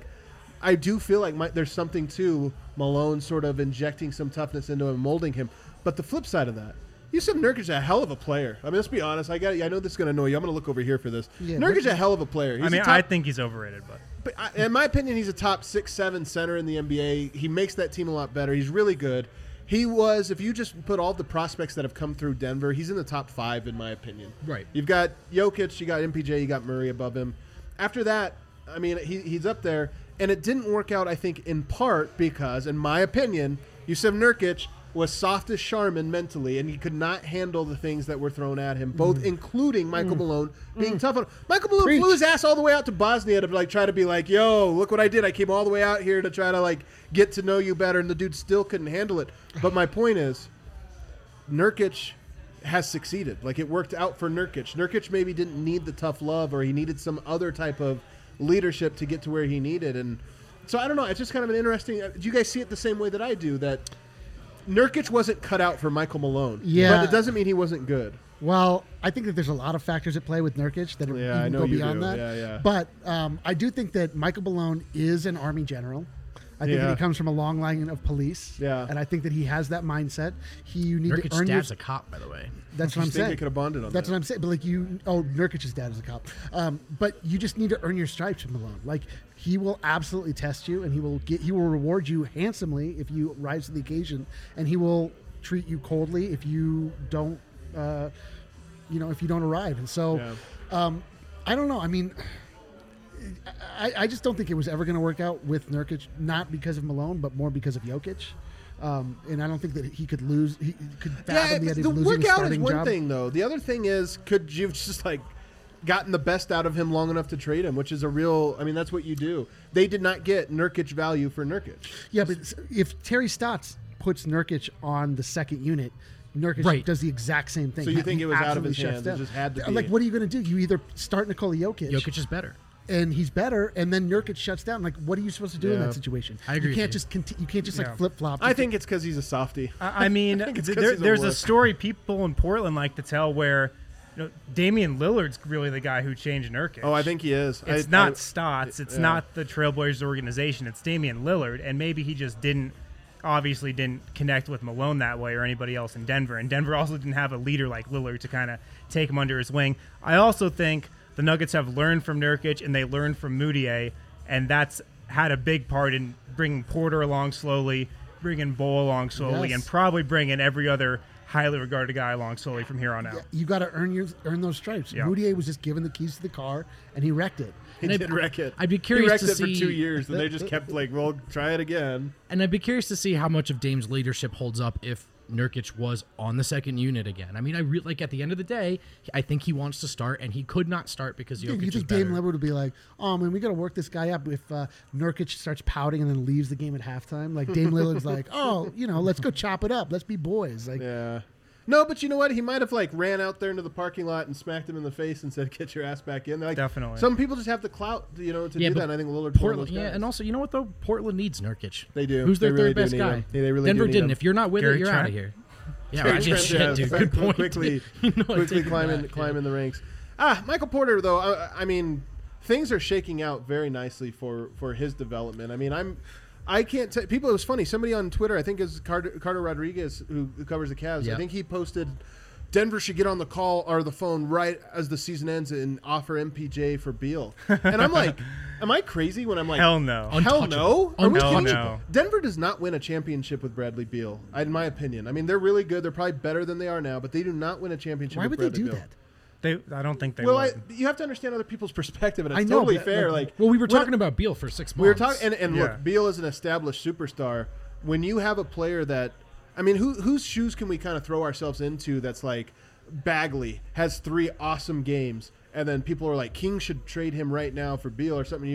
I do feel like there's something to Malone sort of injecting some toughness into him, molding him. But the flip side of that, Yusuf Nurkic is a hell of a player. I mean, let's be honest. I know this is going to annoy you. I'm going to look over here for this. Yeah, Nurkic is a hell of a player. He's a top- I think he's overrated, but in my opinion, he's a top 6-7 center in the NBA. He makes that team a lot better. He's really good. He was, if you just put all the prospects that have come through Denver, he's in the top 5 in my opinion. Right. You've got Jokic, you got MPJ, you got Murray above him. After that, I mean, he's up there. And it didn't work out, I think, in part because, in my opinion, Yusuf Nurkic was soft as Charmin mentally, and he could not handle the things that were thrown at him, both including Michael Malone being tough on him. Michael Malone flew his ass all the way out to Bosnia to try to be like, yo, look what I did. I came all the way out here to try to get to know you better, and the dude still couldn't handle it. But my point is, Nurkic has succeeded. It worked out for Nurkic. Nurkic maybe didn't need the tough love, or he needed some other type of leadership to get to where he needed. And so I don't know. It's just kind of an interesting. Do you guys see it the same way that I do? That Nurkic wasn't cut out for Michael Malone. Yeah. But it doesn't mean he wasn't good. Well, I think that there's a lot of factors at play with Nurkic that Yeah, I even know go you beyond do. that. Yeah. But I do think that Michael Malone is an Army general. I think that Yeah. he comes from a long line of police. Yeah. And I think that he has that mindset. You need Nurkic's to earn your. dad's a cop, by the way. That's what I'm I think saying. they could have bonded on That's that. what I'm saying. But Nurkic's dad is a cop. But you just need to earn your stripes with Malone. He will absolutely test you, and he will reward you handsomely if you rise to the occasion, and he will treat you coldly if you don't, if you don't arrive. And so, I don't know. I mean, I just don't think it was ever going to work out with Nurkic, not because of Malone, but more because of Jokic. And I don't think that he could lose. He could fathom the idea the of losing his workout is starting one job. thing, though. The other thing is, could you just gotten the best out of him long enough to trade him, which is a real. I mean, that's what you do. They did not get Nurkic value for Nurkic. Yeah, but if Terry Stotts puts Nurkic on the second unit, Nurkic does the exact same thing. So you think He it was out of absolutely his shuts hands? It down. just had to be. What are you going to do? You either start Nikola Jokic. Jokic is better. And he's better, and then Nurkic shuts down. What are you supposed to do in Yeah. that situation? I agree You can't with you. just you can't just Yeah. flip flop. I think it's because he's a softie. I mean, think it's 'cause he's a there's a wuss. story people in Portland like to tell where Damian Lillard's really the guy who changed Nurkic. Oh, I think he is. It's not Stotts. It's yeah. not the Trailblazers organization. It's Damian Lillard, and maybe he just didn't connect with Malone that way or anybody else in Denver. And Denver also didn't have a leader like Lillard to kind of take him under his wing. I also think the Nuggets have learned from Nurkic and they learned from Moutier, and that's had a big part in bringing Porter along slowly, bringing Bo along slowly, Yes. and probably bringing every other highly regarded guy along slowly from here on out. you got to earn those stripes. Yeah. Moutier was just given the keys to the car, and he wrecked it. He did wreck it. I'd be He curious wrecked to it for see- 2 years, and they just kept well, try it again. And I'd be curious to see how much of Dame's leadership holds up if Nurkic was on the second unit again. I mean, at the end of the day, I think he wants to start, and he could not start because Jokic You is think better. Dame Lillard would be like, "Oh man, we got to work this guy up." If Nurkic starts pouting and then leaves the game at halftime, Dame Lillard's like, "Oh, let's go chop it up. Let's be boys." Yeah. No, but you know what? He might have ran out there into the parking lot and smacked him in the face and said, "Get your ass back in." Definitely. Some people just have the clout, to do but that. And I think Lillard's one of Portland, those guys. and also, you know what though? Portland needs Nurkic. They do. Who's their They really third best do need guy? him. Yeah, they really Denver do need didn't. him. If you're not with Gary it, you're out of Trent? here. Yeah, Terry right. Yeah, Trent, shit, dude. Good point. quickly climb in the ranks. Michael Porter, though, I mean, things are shaking out very nicely for his development. I mean, I can't tell people. It was funny. Somebody on Twitter, I think is Carter Rodriguez, who covers the Cavs. Yep. I think he posted Denver should get on the call or the phone right as the season ends and offer MPJ for Beal. And I'm like, am I crazy when I'm like, hell no. Hell no? Are we kidding me? No. Denver does not win a championship with Bradley Beal, in my opinion. I mean, they're really good. They're probably better than they are now, but they do not win a championship Why with would they Bradley do Beal. that? I don't think they Well, would. you have to understand other people's perspective, and it's I know, totally but, fair. Well, we were when- talking about Beal for 6 months. We were talking, and Yeah. look, Beal is an established superstar. When you have a player that, I mean, whose shoes can we kind of throw ourselves into? That's like Bagley has 3 awesome games, and then people are like, King should trade him right now for Beal or something.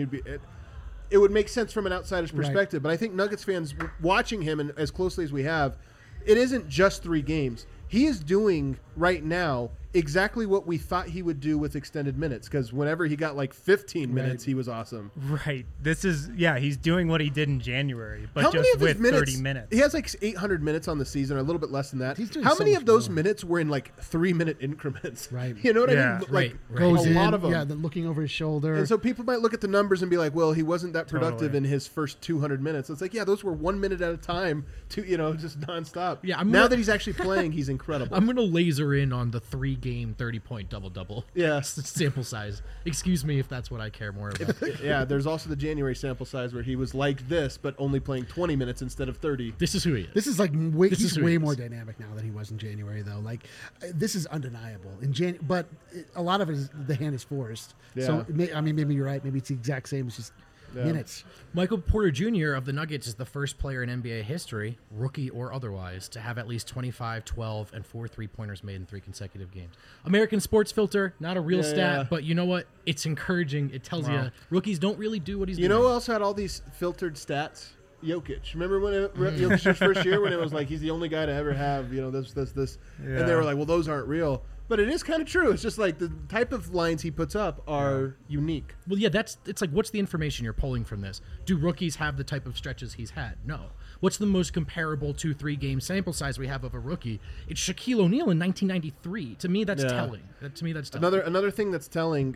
It would make sense from an outsider's perspective, but I think Nuggets fans watching him and as closely as we have, it isn't just 3 games. He is doing right now exactly what we thought he would do with extended minutes, because whenever he got like 15 minutes, he was awesome. Right. He's doing what he did in January, but How many just of his with minutes? 30 minutes. He has like 800 minutes on the season, or a little bit less than that. He's doing How so many much of those more. minutes were in like 3-minute increments? Right. You know what I Yeah. mean? Right, Like right. Goes a in, lot of them. yeah, looking over his shoulder. And so people might look at the numbers and be like, "Well, he wasn't that productive Totally. in his first 200 minutes." It's like, yeah, those were 1 minute at a time, just nonstop. Yeah, now that he's actually playing, he's incredible. I'm going to laser in on the 3-game 30-point double-double. Yeah. Sample size. Excuse me if that's what I care more about. Yeah, there's also the January sample size where he was like this, but only playing 20 minutes instead of 30. This is who he is. This is like This he's is who way he more is. dynamic now than he was in January, though. Like, this is undeniable. But a lot of it is the hand is forced. So maybe you're right. Maybe it's the exact same. It's just minutes. Michael Porter Jr. of the Nuggets is the first player in NBA history, rookie or otherwise, to have at least 25, 12, and 4 3-pointers made in 3 consecutive games. American Sports Filter, not a real stat, but you know what? It's encouraging. It tells you rookies don't really do what he's doing. You know who else had all these filtered stats? Jokic. Remember when Jokic's first year when it was like he's the only guy to ever have this, and they were like, well, those aren't real. But it is kind of true. It's just like the type of lines he puts up are unique. Well, yeah, it's like, what's the information you're pulling from this? Do rookies have the type of stretches he's had? No. What's the most comparable 2-3 game sample size we have of a rookie? It's Shaquille O'Neal in 1993. To me, that's telling. To me, that's telling. Another thing that's telling.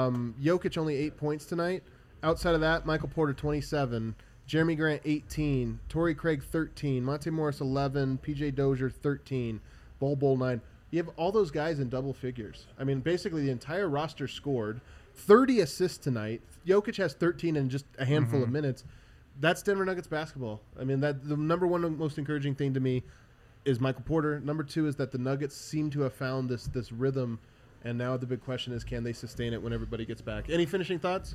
Jokic only 8 points tonight. Outside of that, Michael Porter 27, Jeremy Grant 18, Torrey Craig 13, Monte Morris 11, PJ Dozier 13, Bol 9. You have all those guys in double figures. I mean, basically the entire roster scored. 30 assists tonight. Jokic has 13 in just a handful of minutes. That's Denver Nuggets basketball. I mean, that the number one most encouraging thing to me is Michael Porter. Number 2 is that the Nuggets seem to have found this rhythm, and now the big question is, can they sustain it when everybody gets back? Any finishing thoughts?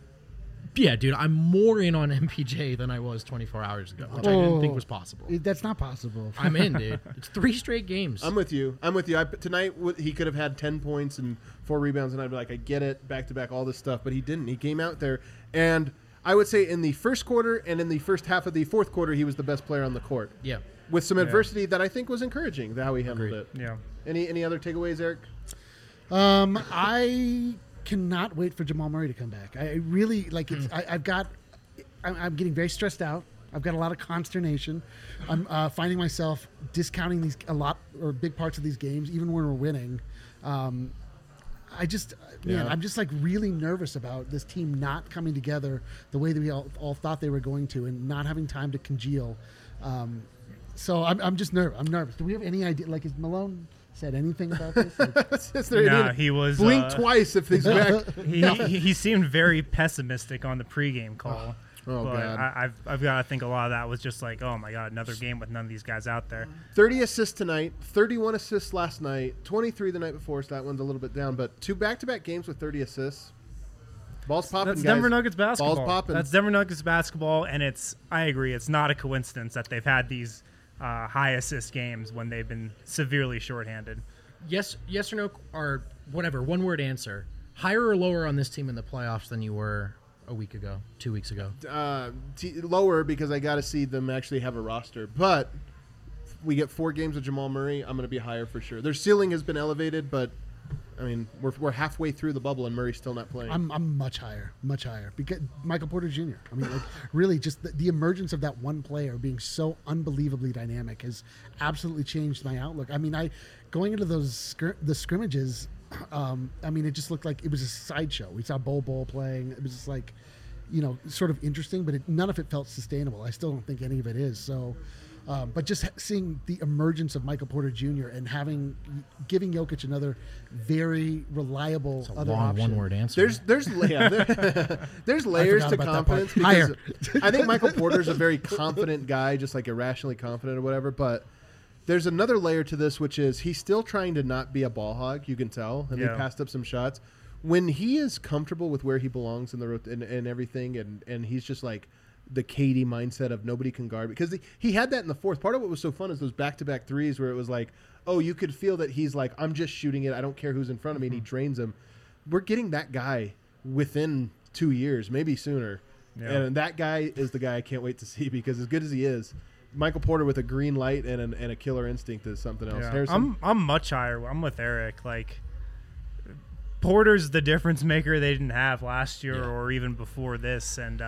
Yeah, dude, I'm more in on MPJ than I was 24 hours ago, which I didn't think was possible. That's not possible. I'm in, dude. It's 3 straight games. I'm with you. Tonight, he could have had 10 points and 4 rebounds, and I'd be like, I get it, back-to-back, all this stuff. But he didn't. He came out there, and I would say in the first quarter and in the first half of the fourth quarter, he was the best player on the court. Yeah. With some adversity that I think was encouraging, how he handled it. Yeah. Any other takeaways, Eric? I cannot wait for Jamal Murray to come back. I really like it. I'm getting very stressed out. I've got a lot of consternation. I'm finding myself discounting big parts of these games, even when we're winning. I'm just like really nervous about this team not coming together the way that we all thought they were going to, and not having time to congeal. So I'm just nervous. I'm nervous. Do we have any idea? Like, is Malone said anything about this? Like, He was blink twice if he's back. He seemed very pessimistic on the pregame call. Oh, but God. I've got to think a lot of that was just like, oh my God, another game with none of these guys out there. 30 assists tonight, 31 assists last night, 23 the night before, so that one's a little bit down. But 2 back-to-back games with 30 assists. Ball's popping, That's guys. Denver Nuggets basketball. Ball's popping. That's Denver Nuggets basketball, and I agree, it's not a coincidence that they've had these high assist games when they've been severely shorthanded. Yes or no, or whatever, one-word answer. Higher or lower on this team in the playoffs than you were a week ago, 2 weeks ago? Lower, because I got to see them actually have a roster. But we get 4 games with Jamal Murray, I'm going to be higher for sure. Their ceiling has been elevated, but I mean, we're halfway through the bubble and Murray's still not playing. I'm much higher because Michael Porter Jr. I mean, like really, just the emergence of that one player being so unbelievably dynamic has absolutely changed my outlook. I mean, going into the scrimmages, I mean, it just looked like it was a sideshow. We saw Bol playing. It was just like, sort of interesting, but none of it felt sustainable. I still don't think any of it is. So. But just seeing the emergence of Michael Porter Jr. and giving Jokic another very reliable other long option. One-word answer. There's layers to confidence because I think Michael Porter's a very confident guy, just like irrationally confident or whatever. But there's another layer to this, which is he's still trying to not be a ball hog. You can tell, and they passed up some shots. When he is comfortable with where he belongs in the and everything, and he's just like. The KD mindset of nobody can guard, because he had that in the fourth. Part of what was so fun is those back-to-back threes where it was like, oh, you could feel that he's like, I'm just shooting it. I don't care who's in front of me, and he drains them. We're getting that guy within 2 years, maybe sooner. Yeah. And that guy is the guy I can't wait to see, because as good as he is, Michael Porter with a green light and a killer instinct is something else. Yeah. I'm much higher. I'm with Eric. Like, Porter's the difference maker they didn't have last year or even before this, and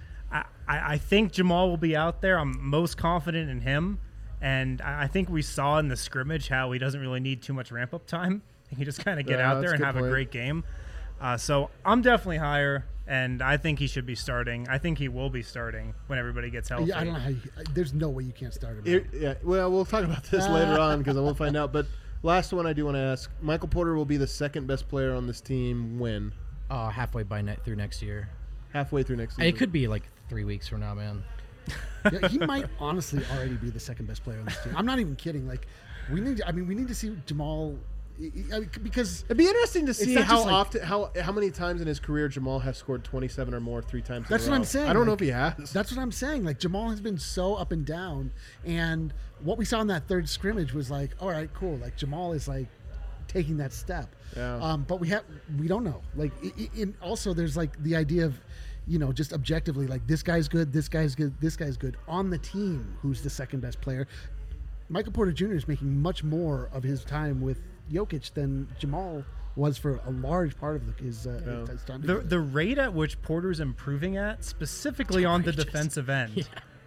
I think Jamal will be out there. I'm most confident in him, and I think we saw in the scrimmage how he doesn't really need too much ramp-up time. He can just kind of get out there and have a great game. So I'm definitely higher, and I think he should be starting. I think he will be starting when everybody gets healthy. Yeah, I don't know how there's no way you can't start him. Well, we'll talk about this later on because I won't find out. But last one I do want to ask, Michael Porter will be the second best player on this team when? Halfway through next year. Halfway through next season. It could be like 3 weeks from now, man. Yeah, he might honestly already be the second best player on this team. I'm not even kidding. Like, we need to see Jamal, because it'd be interesting to see how many times in his career Jamal has scored 27 or more 3 times. That's what I'm saying. I don't know if he has. That's what I'm saying. Like, Jamal has been so up and down, and what we saw in that third scrimmage was like, all right, cool. Like, Jamal is like taking that step. Yeah. But we don't know. Like, also there's like the idea of, just objectively, like, this guy's good, this guy's good, this guy's good. On the team, who's the second best player? Michael Porter Jr. is making much more of his time with Jokic than Jamal was for a large part of his time. The rate at which Porter's improving at, specifically on the defensive end,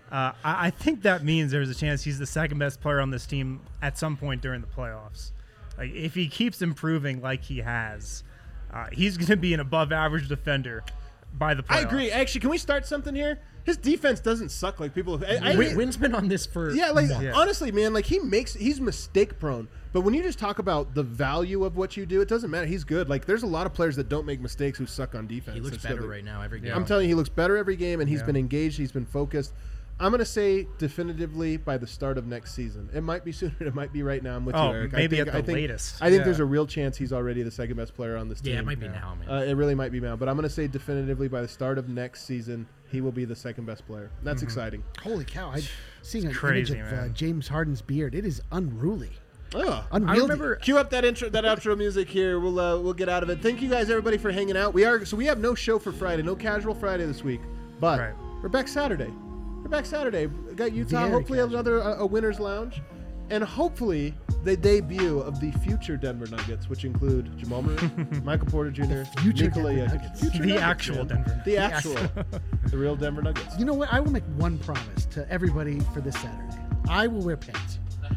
I think that means there's a chance he's the second best player on this team at some point during the playoffs. Like, if he keeps improving like he has, he's going to be an above-average defender by the playoffs. I agree. Actually, can we start something here? His defense doesn't suck like people. Wynn's been on this for honestly, man, like he's mistake prone. But when you just talk about the value of what you do, it doesn't matter. He's good. Like, there's a lot of players that don't make mistakes who suck on defense. He looks better right now every game. I'm telling you, he looks better every game, and he's been engaged. He's been focused. I'm going to say definitively by the start of next season. It might be sooner. It might be right now. I'm with you, Eric. Maybe at the latest. I think there's a real chance he's already the second best player on this team. Yeah, it might be now, man. It really might be now. But I'm going to say definitively by the start of next season, he will be the second best player. That's exciting. Holy cow. Seeing an image of James Harden's beard, it is unruly. Oh, unwieldy. I remember. Cue up that outro music here. We'll get out of it. Thank you guys, everybody, for hanging out. We have no show for Friday, no casual Friday this week, but we're back Saturday. We got Utah. Hopefully a winner's lounge, and hopefully the debut of the future Denver Nuggets, which include Jamal Murray, Michael Porter Jr., Nikola Jokic. The actual Denver. The real Denver Nuggets. You know what? I will make one promise to everybody for this Saturday. I will wear pants.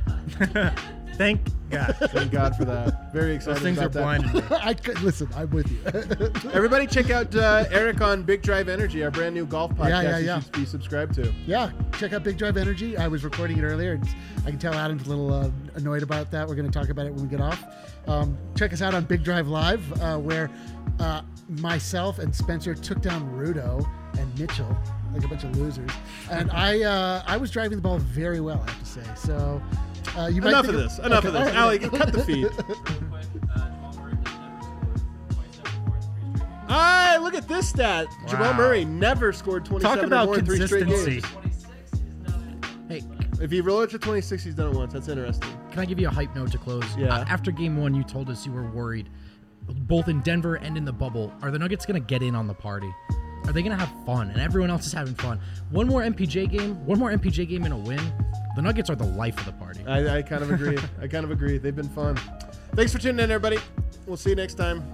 Thank God. Thank God for that. Very excited. Those things about are blinding me. Listen, I'm with you. Everybody check out Eric on Big Drive Energy, our brand new golf podcast you should be subscribed to. Yeah, check out Big Drive Energy. I was recording it earlier. I can tell Adam's a little annoyed about that. We're going to talk about it when we get off. Check us out on Big Drive Live, where myself and Spencer took down Rudo and Mitchell like a bunch of losers. And I was driving the ball very well, I have to say. So you might enough of this. Allie, cut the feed. Look at this stat. Wow. Jamal Murray never scored 27 or more in 3 straight games. Hey, if he rolled it to 26, he's done it once. That's interesting. Can I give you a hype note to close? Yeah. After game 1, you told us you were worried, both in Denver and in the bubble. Are the Nuggets going to get in on the party? Are they going to have fun? And everyone else is having fun. One more MPJ game and a win. The Nuggets are the life of the party. I kind of agree. They've been fun. Thanks for tuning in, everybody. We'll see you next time.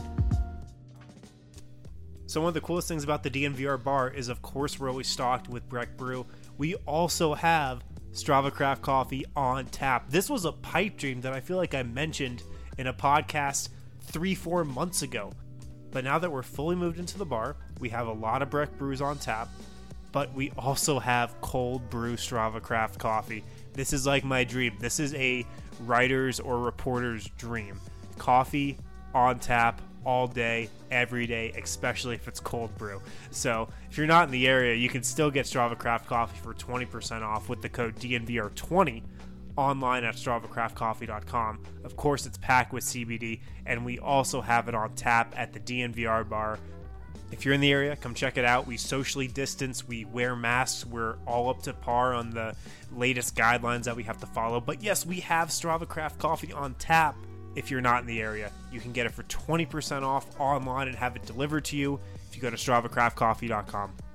So one of the coolest things about the DNVR bar is, of course, we're always stocked with Breck Brew. We also have Strava Craft Coffee on tap. This was a pipe dream that I feel like I mentioned in a podcast 3-4 months ago. But now that we're fully moved into the bar, we have a lot of Breck Brews on tap, but we also have cold brew Strava Craft Coffee. This is like my dream. This is a writer's or reporter's dream. Coffee on tap all day, every day, especially if it's cold brew. So if you're not in the area, you can still get Strava Craft Coffee for 20% off with the code DNVR20 online at StravaCraftCoffee.com. Of course, it's packed with CBD, and we also have it on tap at the DNVR bar. If you're in the area, come check it out. We socially distance, we wear masks, we're all up to par on the latest guidelines that we have to follow. But yes, we have Strava Craft Coffee on tap. If you're not in the area, you can get it for 20% off online and have it delivered to you if you go to StravaCraftCoffee.com.